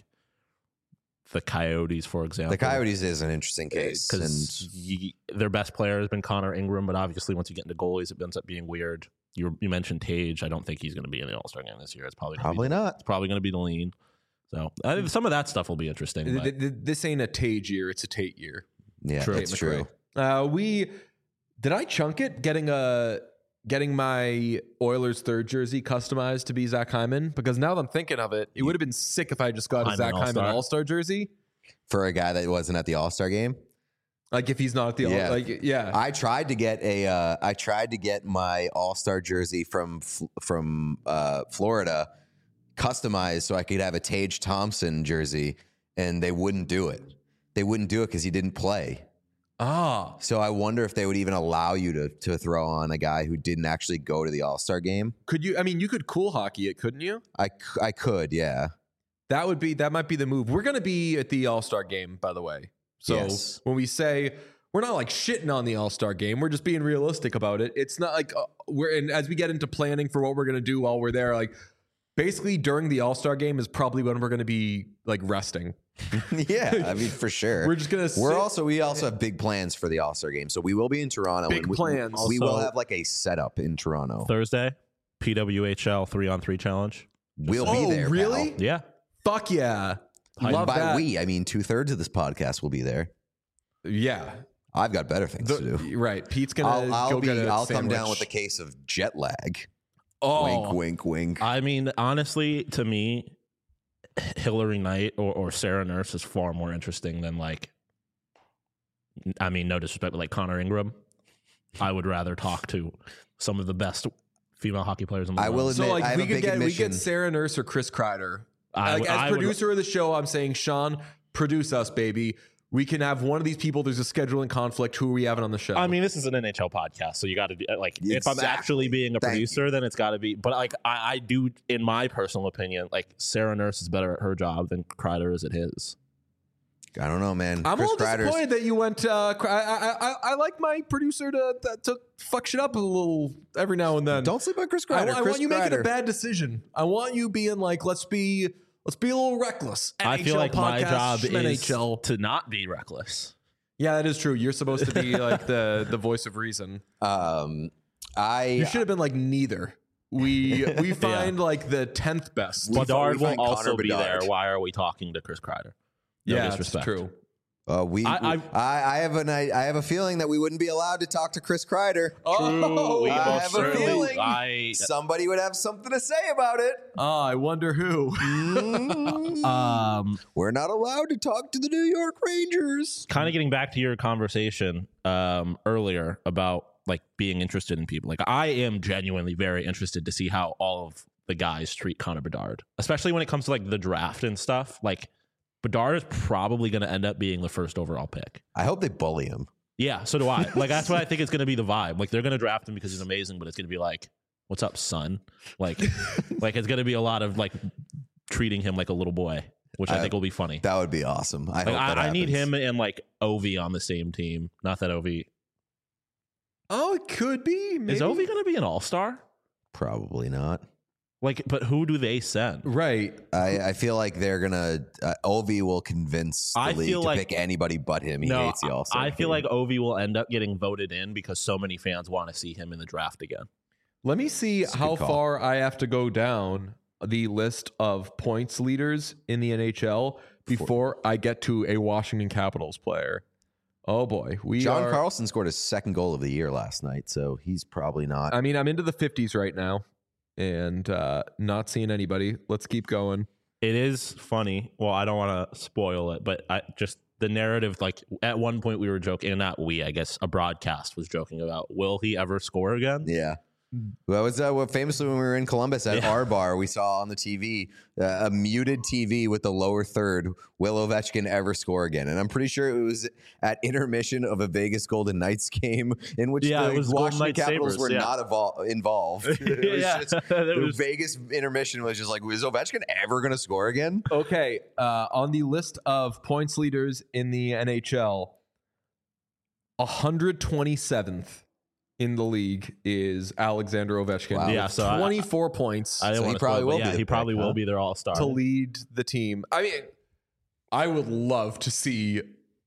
the Coyotes, for example. The Coyotes is an interesting case. And because their best player has been Connor Ingram, but obviously once you get into goalies, it ends up being weird. You, you mentioned Tage. I don't think he's going to be in the All Star game this year. It's probably gonna probably be, not. It's probably going to be the lean. So I think some of that stuff will be interesting. Th- But th- th- This ain't a Tage year; it's a Tate year. Yeah, True. that's Tate true. McRae. Uh, we did I chunk it getting a getting my Oilers third jersey customized to be Zach Hyman because now that I'm thinking of it, it would have been sick if I just got a Hyman Zach Hyman All-Star. All Star jersey. For a guy that wasn't at the All-Star game. Like if he's not at the Yeah. all, like yeah. I tried to get a uh, I tried to get my All-Star jersey from F- from uh, Florida customized so I could have a Tage Thompson jersey, and they wouldn't do it. They wouldn't do it because he didn't play. ah, So I wonder if they would even allow you to to throw on a guy who didn't actually go to the All-Star game. could you? I mean, you could cool hockey it, couldn't you? I, c- I could, yeah. That would be that might be the move. We're gonna be at the All Star game, by the way. So Yes. when we say we're not like shitting on the All Star game, we're just being realistic about it. It's not like uh, we're and as we get into planning for what we're gonna do while we're there, like basically during the All Star game is probably when we're gonna be like resting. Yeah, I mean for sure. We're just gonna. We're sit- also we also have big plans for the All-Star game. So we will be in Toronto. Big and we, plans. We will Also- have like a setup in Toronto. Thursday, P W H L three on three challenge. We'll Oh, be there. really? pal. Yeah. Fuck yeah, And love by that. we, I mean two thirds of this podcast will be there. Yeah, I've got better things The- to do. right. Pete's gonna. I'll, I'll go be. get a I'll come down sandwich. with a case of jet lag. Oh, Wink, wink, wink. I mean, honestly, to me, Hillary Knight or, or Sarah Nurse is far more interesting than like. I mean, no disrespect, but like Connor Ingram, I would rather talk to some of the best female hockey players in the I world. will So admit, like I have we a could big get we admission. get Sarah Nurse or Chris Kreider. I Like would- as I would- producer of the show, I'm saying Sean, produce us, baby. We can have one of these people. There's a scheduling conflict. Who are we having on the show? I mean, this is an N H L podcast, so you got to do like. If I'm Exactly. actually being a Thank producer, then it's got to be. But like, I, I do, in my personal opinion, like Sarah Nurse is better at her job than Kreider is at his. I don't know, man. I'm Chris a little Kreider's- disappointed that you went. Uh, I, I, I, I like my producer to, to to fuck shit up a little every now and then. Don't sleep on Chris I, Kreider. I Chris want you making a Kreider. bad decision. I want you being like, let's be let's be a little reckless. I feel N H L like my podcast, job is N H L. to not be reckless. Yeah, that is true. You're supposed to be like the the voice of reason. Um, I You should have been like neither. We we find like the tenth best. We- Bedard we will find also Connor be Bedard. there. Why are we talking to Chris Kreider? No yeah, it's disrespect. true. Uh, we, I- I, I, I have an, I, I have a feeling that we wouldn't be allowed to talk to Chris Kreider. Oh, We I most have a certainly- feeling I somebody would have something to say about it. oh, I wonder who. um We're not allowed to talk to the New York Rangers. kind of getting back to your conversation um earlier about like being interested in people. Like I am genuinely very interested to see how all of the guys treat Connor Bedard, especially when it comes to like the draft and stuff. Like Bedard is probably going to end up being the first overall pick. I hope they bully him. Yeah, so do I. Like that's what I think is going to be the vibe. Like they're going to draft him because he's amazing, but it's going to be like, "What's up, son?" Like, like it's going to be a lot of like treating him like a little boy, which I, I- think will be funny. That would be awesome. I Like hope that I, I need happens. him and like Ovi on the same team. Not that Ovi Oh, it could be. Maybe. is Ovi going to be an all star. Probably not. Like, but who do they send? Right. I, I feel like they're gonna. Uh, Ovi will convince the I league feel to like- pick anybody but him. He no, hates the All Star. I feel like Ovi will end up getting voted in because so many fans want to see him in the draft again. Let me see a how good call. far I have to go down the list of points leaders in the N H L before I get to a Washington Capitals player. Oh boy, we John are. Carlson scored his second goal of the year last night, so he's probably not. I mean, I'm into the fifties right now, and uh, not seeing anybody. Let's keep going. It is funny. Well, I don't want to spoil it, but I just the narrative. Like at one point, we were joking, and not we. I guess a broadcast was joking about will he ever score again? Yeah. That was uh, what famously when we were in Columbus at Yeah. our bar, we saw on the T V uh, a muted T V with the lower third. Will Ovechkin ever score again? And I'm pretty sure it was at intermission of a Vegas Golden Knights game in which Yeah, the it was Golden Washington Knights Capitals Sabres, were yeah. not evol- involved. It was Yeah, just, it the was- Vegas intermission was just like, is Ovechkin ever going to score again? Okay, uh, on the list of points leaders in the N H L, one hundred twenty-seventh in the league is Alexander Ovechkin. Wow. Yeah, with so I- twenty-four points I didn't So want he to probably spoil, will but be yeah, the he probably pick, will huh? be their all star. to lead the team. I mean, I would love to see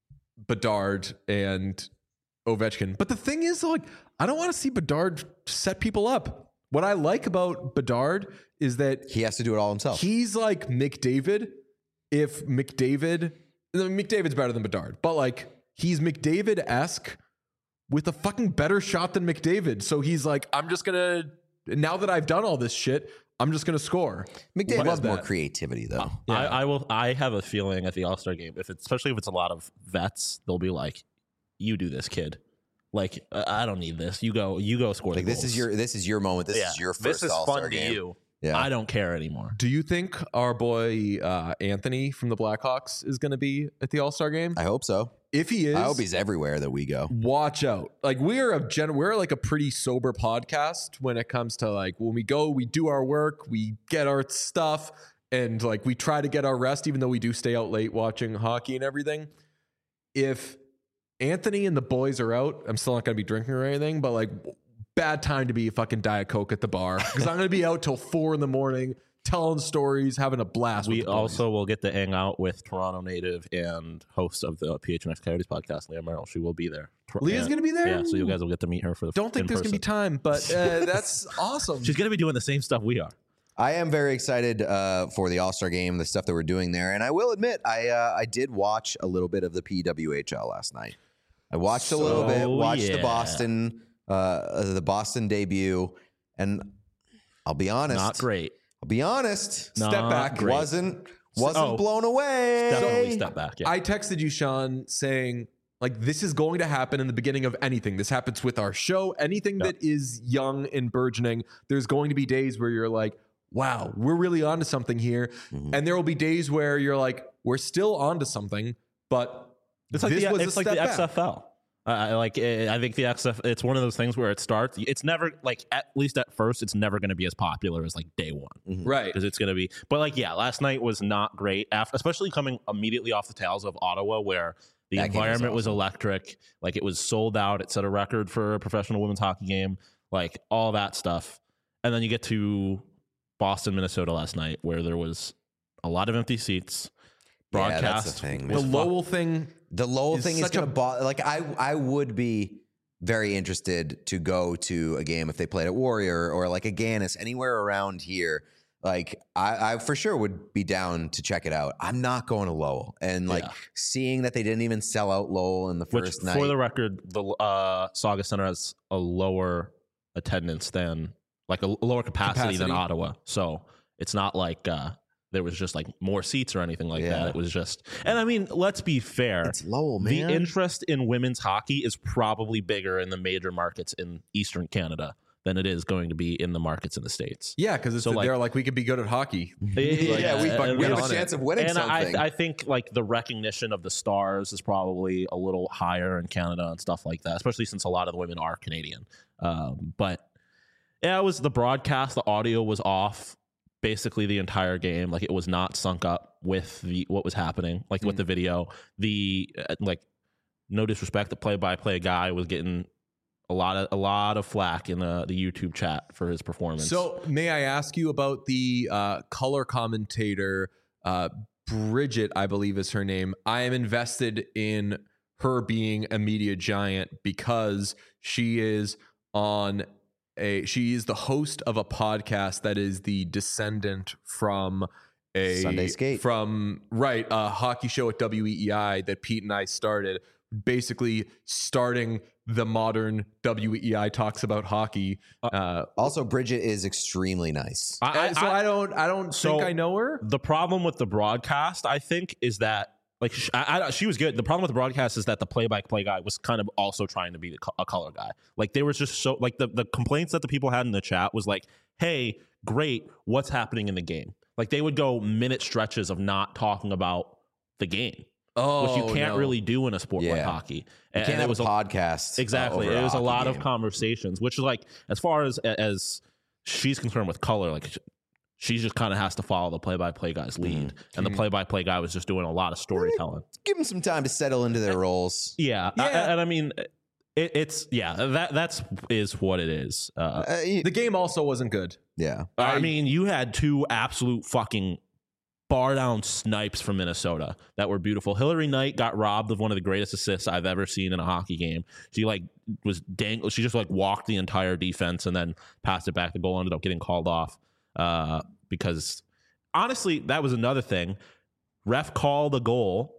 Bedard and Ovechkin. But the thing is, like, I don't want to see Bedard set people up. What I like about Bedard is that He has to do it all himself. he's like McDavid. If McDavid, I mean, McDavid's better than Bedard, but like he's McDavid esque with a fucking better shot than McDavid. So he's like, I'm just gonna. Now that I've done all this shit, I'm just gonna score. McDavid Love has more that. creativity, though. I, I will. I have a feeling at the All Star game, if it's, especially if it's a lot of vets, they'll be like, "You do this, kid. Like uh, I don't need this. You go. You go score. Like the this is goals." your this is your moment. This Yeah. is your first This is All-Star fun game. to you. Yeah. I don't care anymore. Do you think our boy uh, Anthony from the Blackhawks is going to be at the All Star game? I hope so. If he is, I hope he's everywhere that we go. watch out. Like we're a gen- we're like a pretty sober podcast when it comes to like when we go, we do our work, we get our stuff, and like we try to get our rest, even though we do stay out late watching hockey and everything. If Anthony and the boys are out, I'm still not going to be drinking or anything, but like bad time to be a fucking Diet Coke at the bar because I'm going to be out till four in the morning telling stories, having a blast. We with the boys. also will get to hang out with Toronto native and host of the P H N X Coyotes podcast, Leah Merrill. She will be there. Leah's going to be there. Yeah, so you guys will get to meet her for the. Don't think in there's going to be person. time, but uh, that's awesome. She's going to be doing the same stuff we are. I am very excited uh, for the All Star game, the stuff that we're doing there, and I will admit, I uh, I did watch a little bit of the P W H L last night. I watched a little bit, So, watched the yeah. Boston uh, the Boston debut, and I'll be honest, Not great. I'll be honest, Not Step back. great. wasn't wasn't Oh. blown away. Definitely step back. Yeah. I texted you, Sean, saying, like, this is going to happen in the beginning of anything. This happens with our show. Anything Yep. that is young and burgeoning, there's going to be days where you're like, wow, we're really onto something here. Mhm. And there will be days where you're like, we're still onto something, but It's like this the, was it's a like step the back. X F L. Uh, I like I think the X F. It's one of those things where it starts. It's never like at least at first, it's never going to be as popular as like day one, Right. because it's going to be. But like yeah, last night was not great. After, especially coming immediately off the tails of Ottawa, where the That game was environment was, awesome. electric. Like it was sold out. It set a record for a professional women's hockey game. Like all that stuff, and then you get to Boston, Minnesota last night, where there was a lot of empty seats. Yeah, Broadcast that's the thing. The was Lowell thing. The Lowell is thing is such going a- to bother. Like I, I would be very interested to go to a game if they played at Warrior or like a Gannis, anywhere around here. Like I, I for sure would be down to check it out. I'm not going to Lowell, and like Yeah. seeing that they didn't even sell out Lowell in the Which, first night. for the record, the uh, Saga Center has a lower attendance than, like, a lower capacity, than Capacity. Ottawa. So it's not like uh, there was just like more seats or anything like Yeah. that. It was just, and I mean, let's be fair. it's Lowell, The man. interest in women's hockey is probably bigger in the major markets in Eastern Canada than it is going to be in the markets in the States. Yeah, because it's So, like- they're like we could be good at hockey. yeah, we, and- we have on a it. chance of winning and something. I, I think like the recognition of the stars is probably a little higher in Canada and stuff like that, especially since a lot of the women are Canadian. Um, but yeah, it was the broadcast. The audio was off basically the entire game. Like it was not sunk up with the what was happening, like with the video. The uh, like, no disrespect, the play-by-play guy was getting a lot of a lot of flack in the the YouTube chat for his performance. So, may I ask you about the uh, color commentator, uh, Bridget, I believe is her name. I am invested in her being a media giant because she is on a, she is the host of a podcast that is the descendant from a Sunday Skate. from right a hockey show at W E E I that Pete and I started, basically starting the modern W E E I talks about hockey. Uh, also, Bridget is extremely nice. I, I, so I, don't I don't so- think I know her. The problem with the broadcast, I think, is that like sh I, I, she was good. The problem with the broadcast is that the play-by-play guy was kind of also trying to be the co- a color guy. Like they was just so like the the complaints that the people had in the chat was like, "Hey, great, what's happening in the game?" Like they would go minute stretches of not talking about the game, Oh, which you can't no. really do in a sport like Yeah. hockey. You And can't it have was a a podcast. uh, Exactly. over It was a hockey lot game. of conversations, which is like, as far as as she's concerned with color, like she just kind of has to follow the play-by-play guy's lead, and the play-by-play guy was just doing a lot of storytelling. Give them some time to settle into their roles. Yeah, I- Yeah. and I mean, it, it's yeah, that that's is what it is. Uh, Uh, y- The game also wasn't good. yeah. I, I- mean, you had two absolute fucking bar down snipes from Minnesota that were beautiful. Hillary Knight got robbed of one of the greatest assists I've ever seen in a hockey game. She like was dang. She just like walked the entire defense and then passed it back. The goal ended up getting called off uh, because honestly, that was another thing. Ref called a goal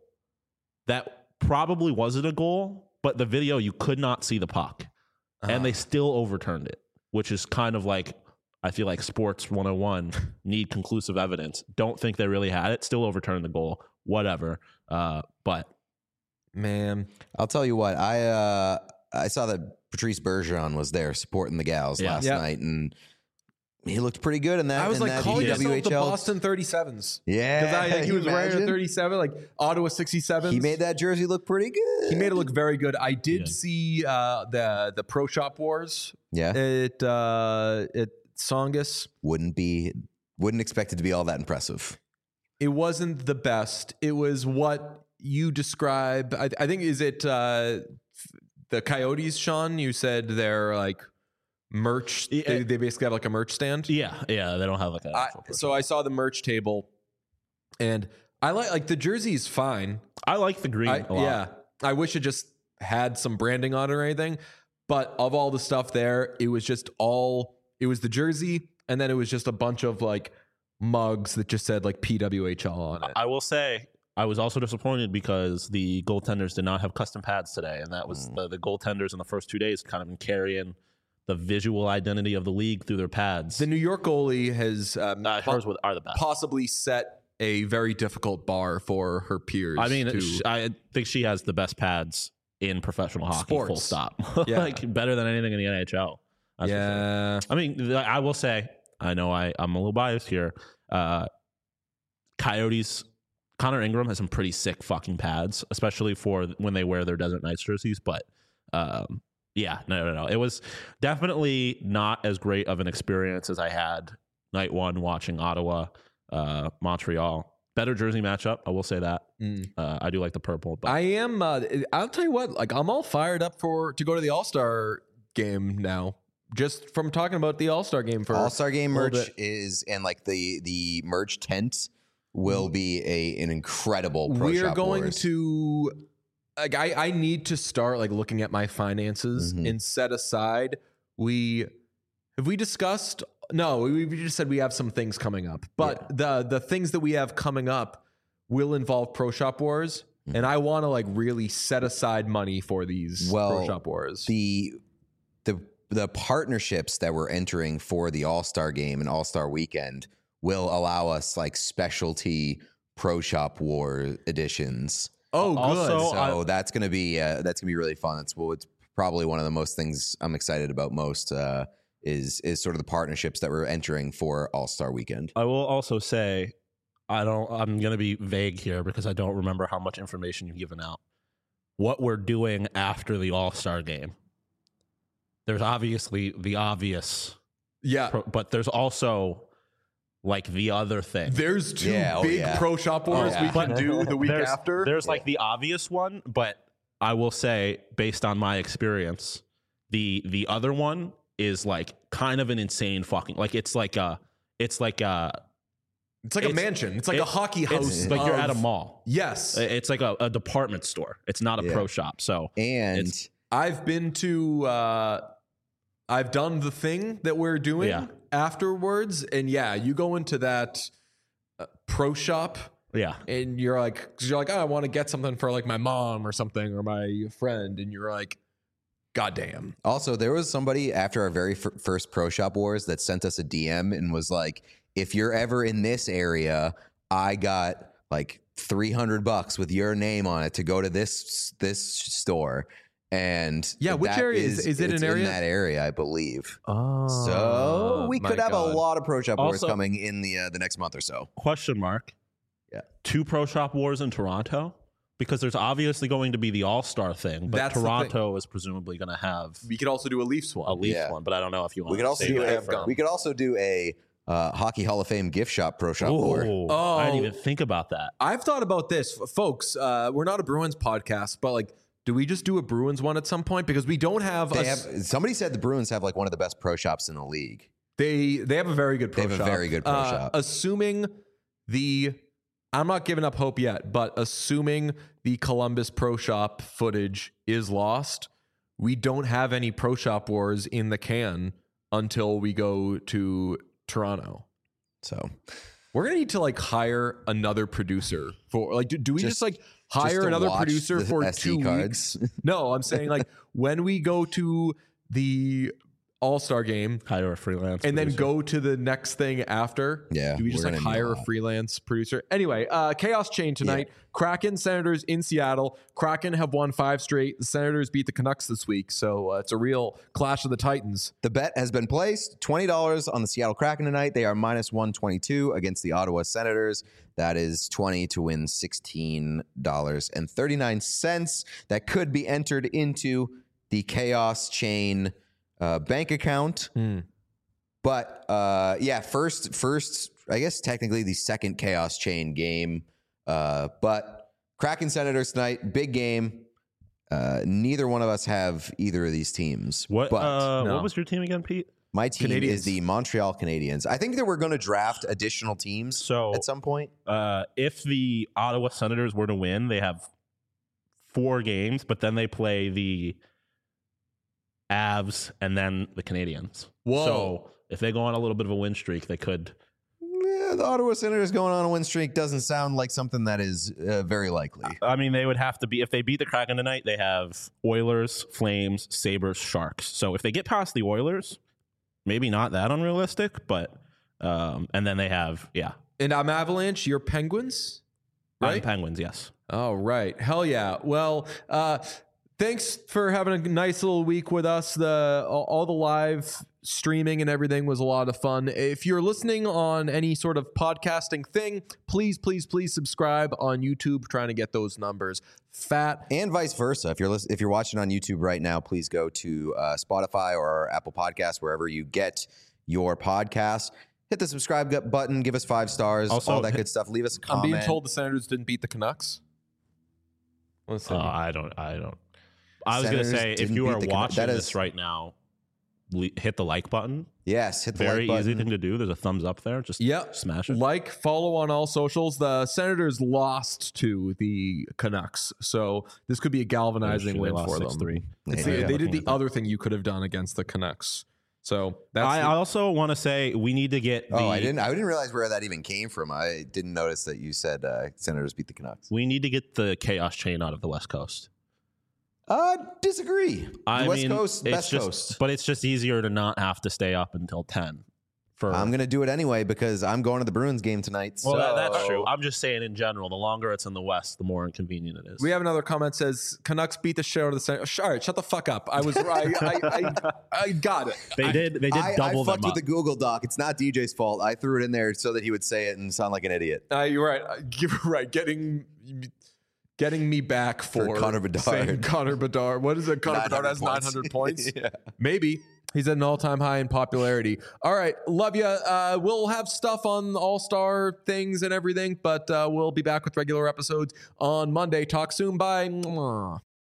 that probably wasn't a goal, but the video you could not see the puck, and they still overturned it, which is kind of like. I feel like sports one oh one need conclusive evidence. Don't think they really had it. Still overturned the goal. Whatever. Uh, but Man, I'll tell you what. I uh, I saw that Patrice Bergeron was there supporting the gals Yeah. last Yeah. night, and he looked pretty good in that. I was in like that calling W yourself H the L. Boston thirty-sevens. Yeah, Because I think he you was wearing a imagine? thirty-seven, like Ottawa sixty-sevens. He made that jersey look pretty good. He made it look very good. I did Yeah. see uh, the the Pro Shop Wars Yeah, at uh, at Songus. wouldn't be. Wouldn't expect it to be all that impressive. It wasn't the best. It was what you describe. I, I think is it uh, the Coyotes, Sean? You said they're like merch. Yeah. They, they basically have like a merch stand. yeah, yeah, they don't have like a. I, actual person. so I saw the merch table, and I like like the jersey is fine. I like the green I, a lot. yeah, I wish it just had some branding on it or anything. But of all the stuff there, it was just all. It was the jersey, and then it was just a bunch of like mugs that just said like P W H L on it. I will say I was also disappointed because the goaltenders did not have custom pads today, and that was the, the goaltenders in the first two days kind of been carrying the visual identity of the league through their pads. The New York goalie has um, uh, po- hers were- are the best. possibly set a very difficult bar for her peers. I mean, to- sh- I think she has the best pads in professional hockey. Full Sports. stop. Yeah. Like better than anything in the N H L. That's for sure. yeah, I mean, th- I will say, I know I, I'm a little biased here. Uh, Coyotes Connor Ingram has some pretty sick fucking pads, especially for when they wear their Desert Knights jerseys. But um, yeah, no, no, no. It was definitely not as great of an experience as I had night one watching Ottawa, uh, Montreal. Better jersey matchup, I will say that. Mm. Uh, I do like the purple. But. I am. Uh, I'll tell you what. Like I'm all fired up for to go to the All Star game now. Just from talking about the All Star game for All Star game merch bit. is and like the the merch tent will be a an incredible. Pro we are Shop going Wars. to. Like I, I need to start like looking at my finances Mhm. and set aside. We have we discussed. No, we, we just said we have some things coming up, but the the things that we have coming up will involve Pro Shop Wars, Mhm. and I want to like really set aside money for these Well, Pro Shop Wars. the the the partnerships that we're entering for the All Star game and All Star weekend will allow us like specialty Pro Shop War editions. oh, good. also- So I- that's gonna be uh, that's gonna be really fun. It's well, it's probably one of the most things I'm excited about most. Uh, is is sort of the partnerships that we're entering for All Star weekend. I will also say, I don't. I'm going to be vague here because I don't remember how much information you've given out. What we're doing after the All Star game. There's obviously the obvious, yeah. pro, but there's also like the other thing. There's two Yeah, oh, big yeah. Pro Shop Wars yeah. we can do the week there's, after. There's like the obvious one, but I will say, based on my experience, the the other one is like kind of an insane fucking like it's like a it's like a it's like a it's- mansion. It's like it- a hockey house. it's like you're at a of- mall. Yes. It's like a, a department store. It's not a Yeah. pro shop. So And It's- I've been to uh I've done the thing that we're doing Yeah. afterwards, and yeah, you go into that uh, pro shop yeah, and you're like, cause you're like, oh, I want to get something for like my mom or something or my friend, and you're like, God damn. also, there was somebody after our very f- first Pro Shop Wars that sent us a D M and was like, if you're ever in this area, I got like three hundred bucks with your name on it to go to this this store. And Yeah, which that area is- is it it's an area? in that area, I believe. Oh, So we could have a lot of Pro Shop Wars Also- coming in the uh, the next month or so. question mark. Yeah. Two pro shop wars in Toronto because there's obviously going to be the All Star thing, but That's the Toronto is presumably going to have We could also do a Leafs a one. Leafs Yeah. one, but I don't know if you want. We could to also save do that a, for- we could also do a uh, Hockey Hall of Fame gift shop Pro Shop War. Ooh, Oh. I didn't even think about that. I've thought about this, F- folks. Uh, we're not a Bruins podcast, but like, do we just do a Bruins one at some point? Because we don't have They a, have somebody said the Bruins have like one of the best pro shops in the league. They they have a very good pro They have a shop. very good pro Uh, shop. Assuming the I'm not giving up hope yet, but assuming the Columbus pro shop footage is lost, we don't have any pro shop wars in the can until we go to Toronto. So We're gonna need to like hire another producer for like do, do we just, Just- like just hire to another watch producer the for S D two cards. weeks? No, I'm saying like when we go to the All-Star game Hire a freelance and then producer. go to the next thing after. Yeah, Do we just we're like gonna need hire a a lot. freelance producer? Anyway, uh, Chaos Chain tonight. Kraken, Senators in Seattle. Kraken have won five straight. The Senators beat the Canucks this week. So uh, it's a real clash of the Titans. the bet has been placed. twenty dollars on the Seattle Kraken tonight. They are minus one twenty-two against the Ottawa Senators. That is twenty to win sixteen dollars and thirty-nine cents. That could be entered into the Chaos Chain uh, bank account. But uh, yeah, first, first, I guess technically the second Chaos Chain game. Uh, but Kraken Senators tonight, big game. Uh, neither one of us have either of these teams. What? But uh, no. What was your team again, Pete? my team Canadians. is the Montreal Canadiens. I think that we're going to draft additional teams So at some point. uh, if the Ottawa Senators were to win, they have four games, but then they play the Avs and then the Canadians. Whoa. So if they go on a little bit of a win streak, they could. Yeah, the Ottawa Senators going on a win streak doesn't sound like something that is uh, very likely. I mean, they would have to be if they beat the Kraken tonight. They have Oilers, Flames, Sabres, Sharks. So if they get past the Oilers, maybe not that unrealistic, but um, and then they have yeah, And I'm Avalanche. You're Penguins, I'm right? Penguins. Yes. All right. Hell yeah. Well, uh, thanks for having a nice little week with us. The all, all the live streaming and everything was a lot of fun. If you're listening on any sort of podcasting thing, please, please, please subscribe on YouTube. Trying to get those numbers fat, and vice versa. If you're listen, if you're watching on YouTube right now, please go to uh, Spotify or Apple Podcasts, wherever you get your podcast. Hit the subscribe button. Give us five stars. Also, all that good stuff. Leave us a I'm comment. being told the Senators didn't beat the Canucks. What's that Uh, mean? I don't. I don't. I was going to Senators say, if didn't you beat are the Canucks. watching That this is- right now, le- hit the like button. Yes, hit the Very like easy button. thing to do. There's a thumbs up there. Just Yep. smash it. Like, follow on all socials. The Senators lost to the Canucks, so this could be a galvanizing They win lost for them. six three. It's Yeah. the- Yeah. they did Looking the at that. other thing you could have done against the Canucks. So that's I the- also want to say we need to get. The, Oh, I didn't. I didn't realize where that even came from. I didn't notice that you said uh, Senators beat the Canucks. We need to get the chaos chain out of the West Coast. Uh, disagree. I the West mean, Coast, it's best just, coast. but it's just easier to not have to stay up until ten. For I'm gonna do it anyway because I'm going to the Bruins game tonight. well, so that- that's true. I'm just saying in general, the longer it's in the West, the more inconvenient it is. we have another comment says Canucks beat the shit out of the Senators. All right, shut the fuck up. I was right. I, I, I got it. they did. They did I, I double them fucked up. with the Google Doc. It's not D J's fault. I threw it in there so that he would say it and sound like an idiot. Uh, you're right. Uh, You're right. Getting getting me back for, For Connor Bedard. saying Connor Bedard. What is it? Connor Bedard has nine hundred points. Yeah. Maybe. He's at an all-time high in popularity. All right. Love you. Uh, we'll have stuff on all-star things and everything, but uh, we'll be back with regular episodes on Monday. Talk soon. Bye. Mwah.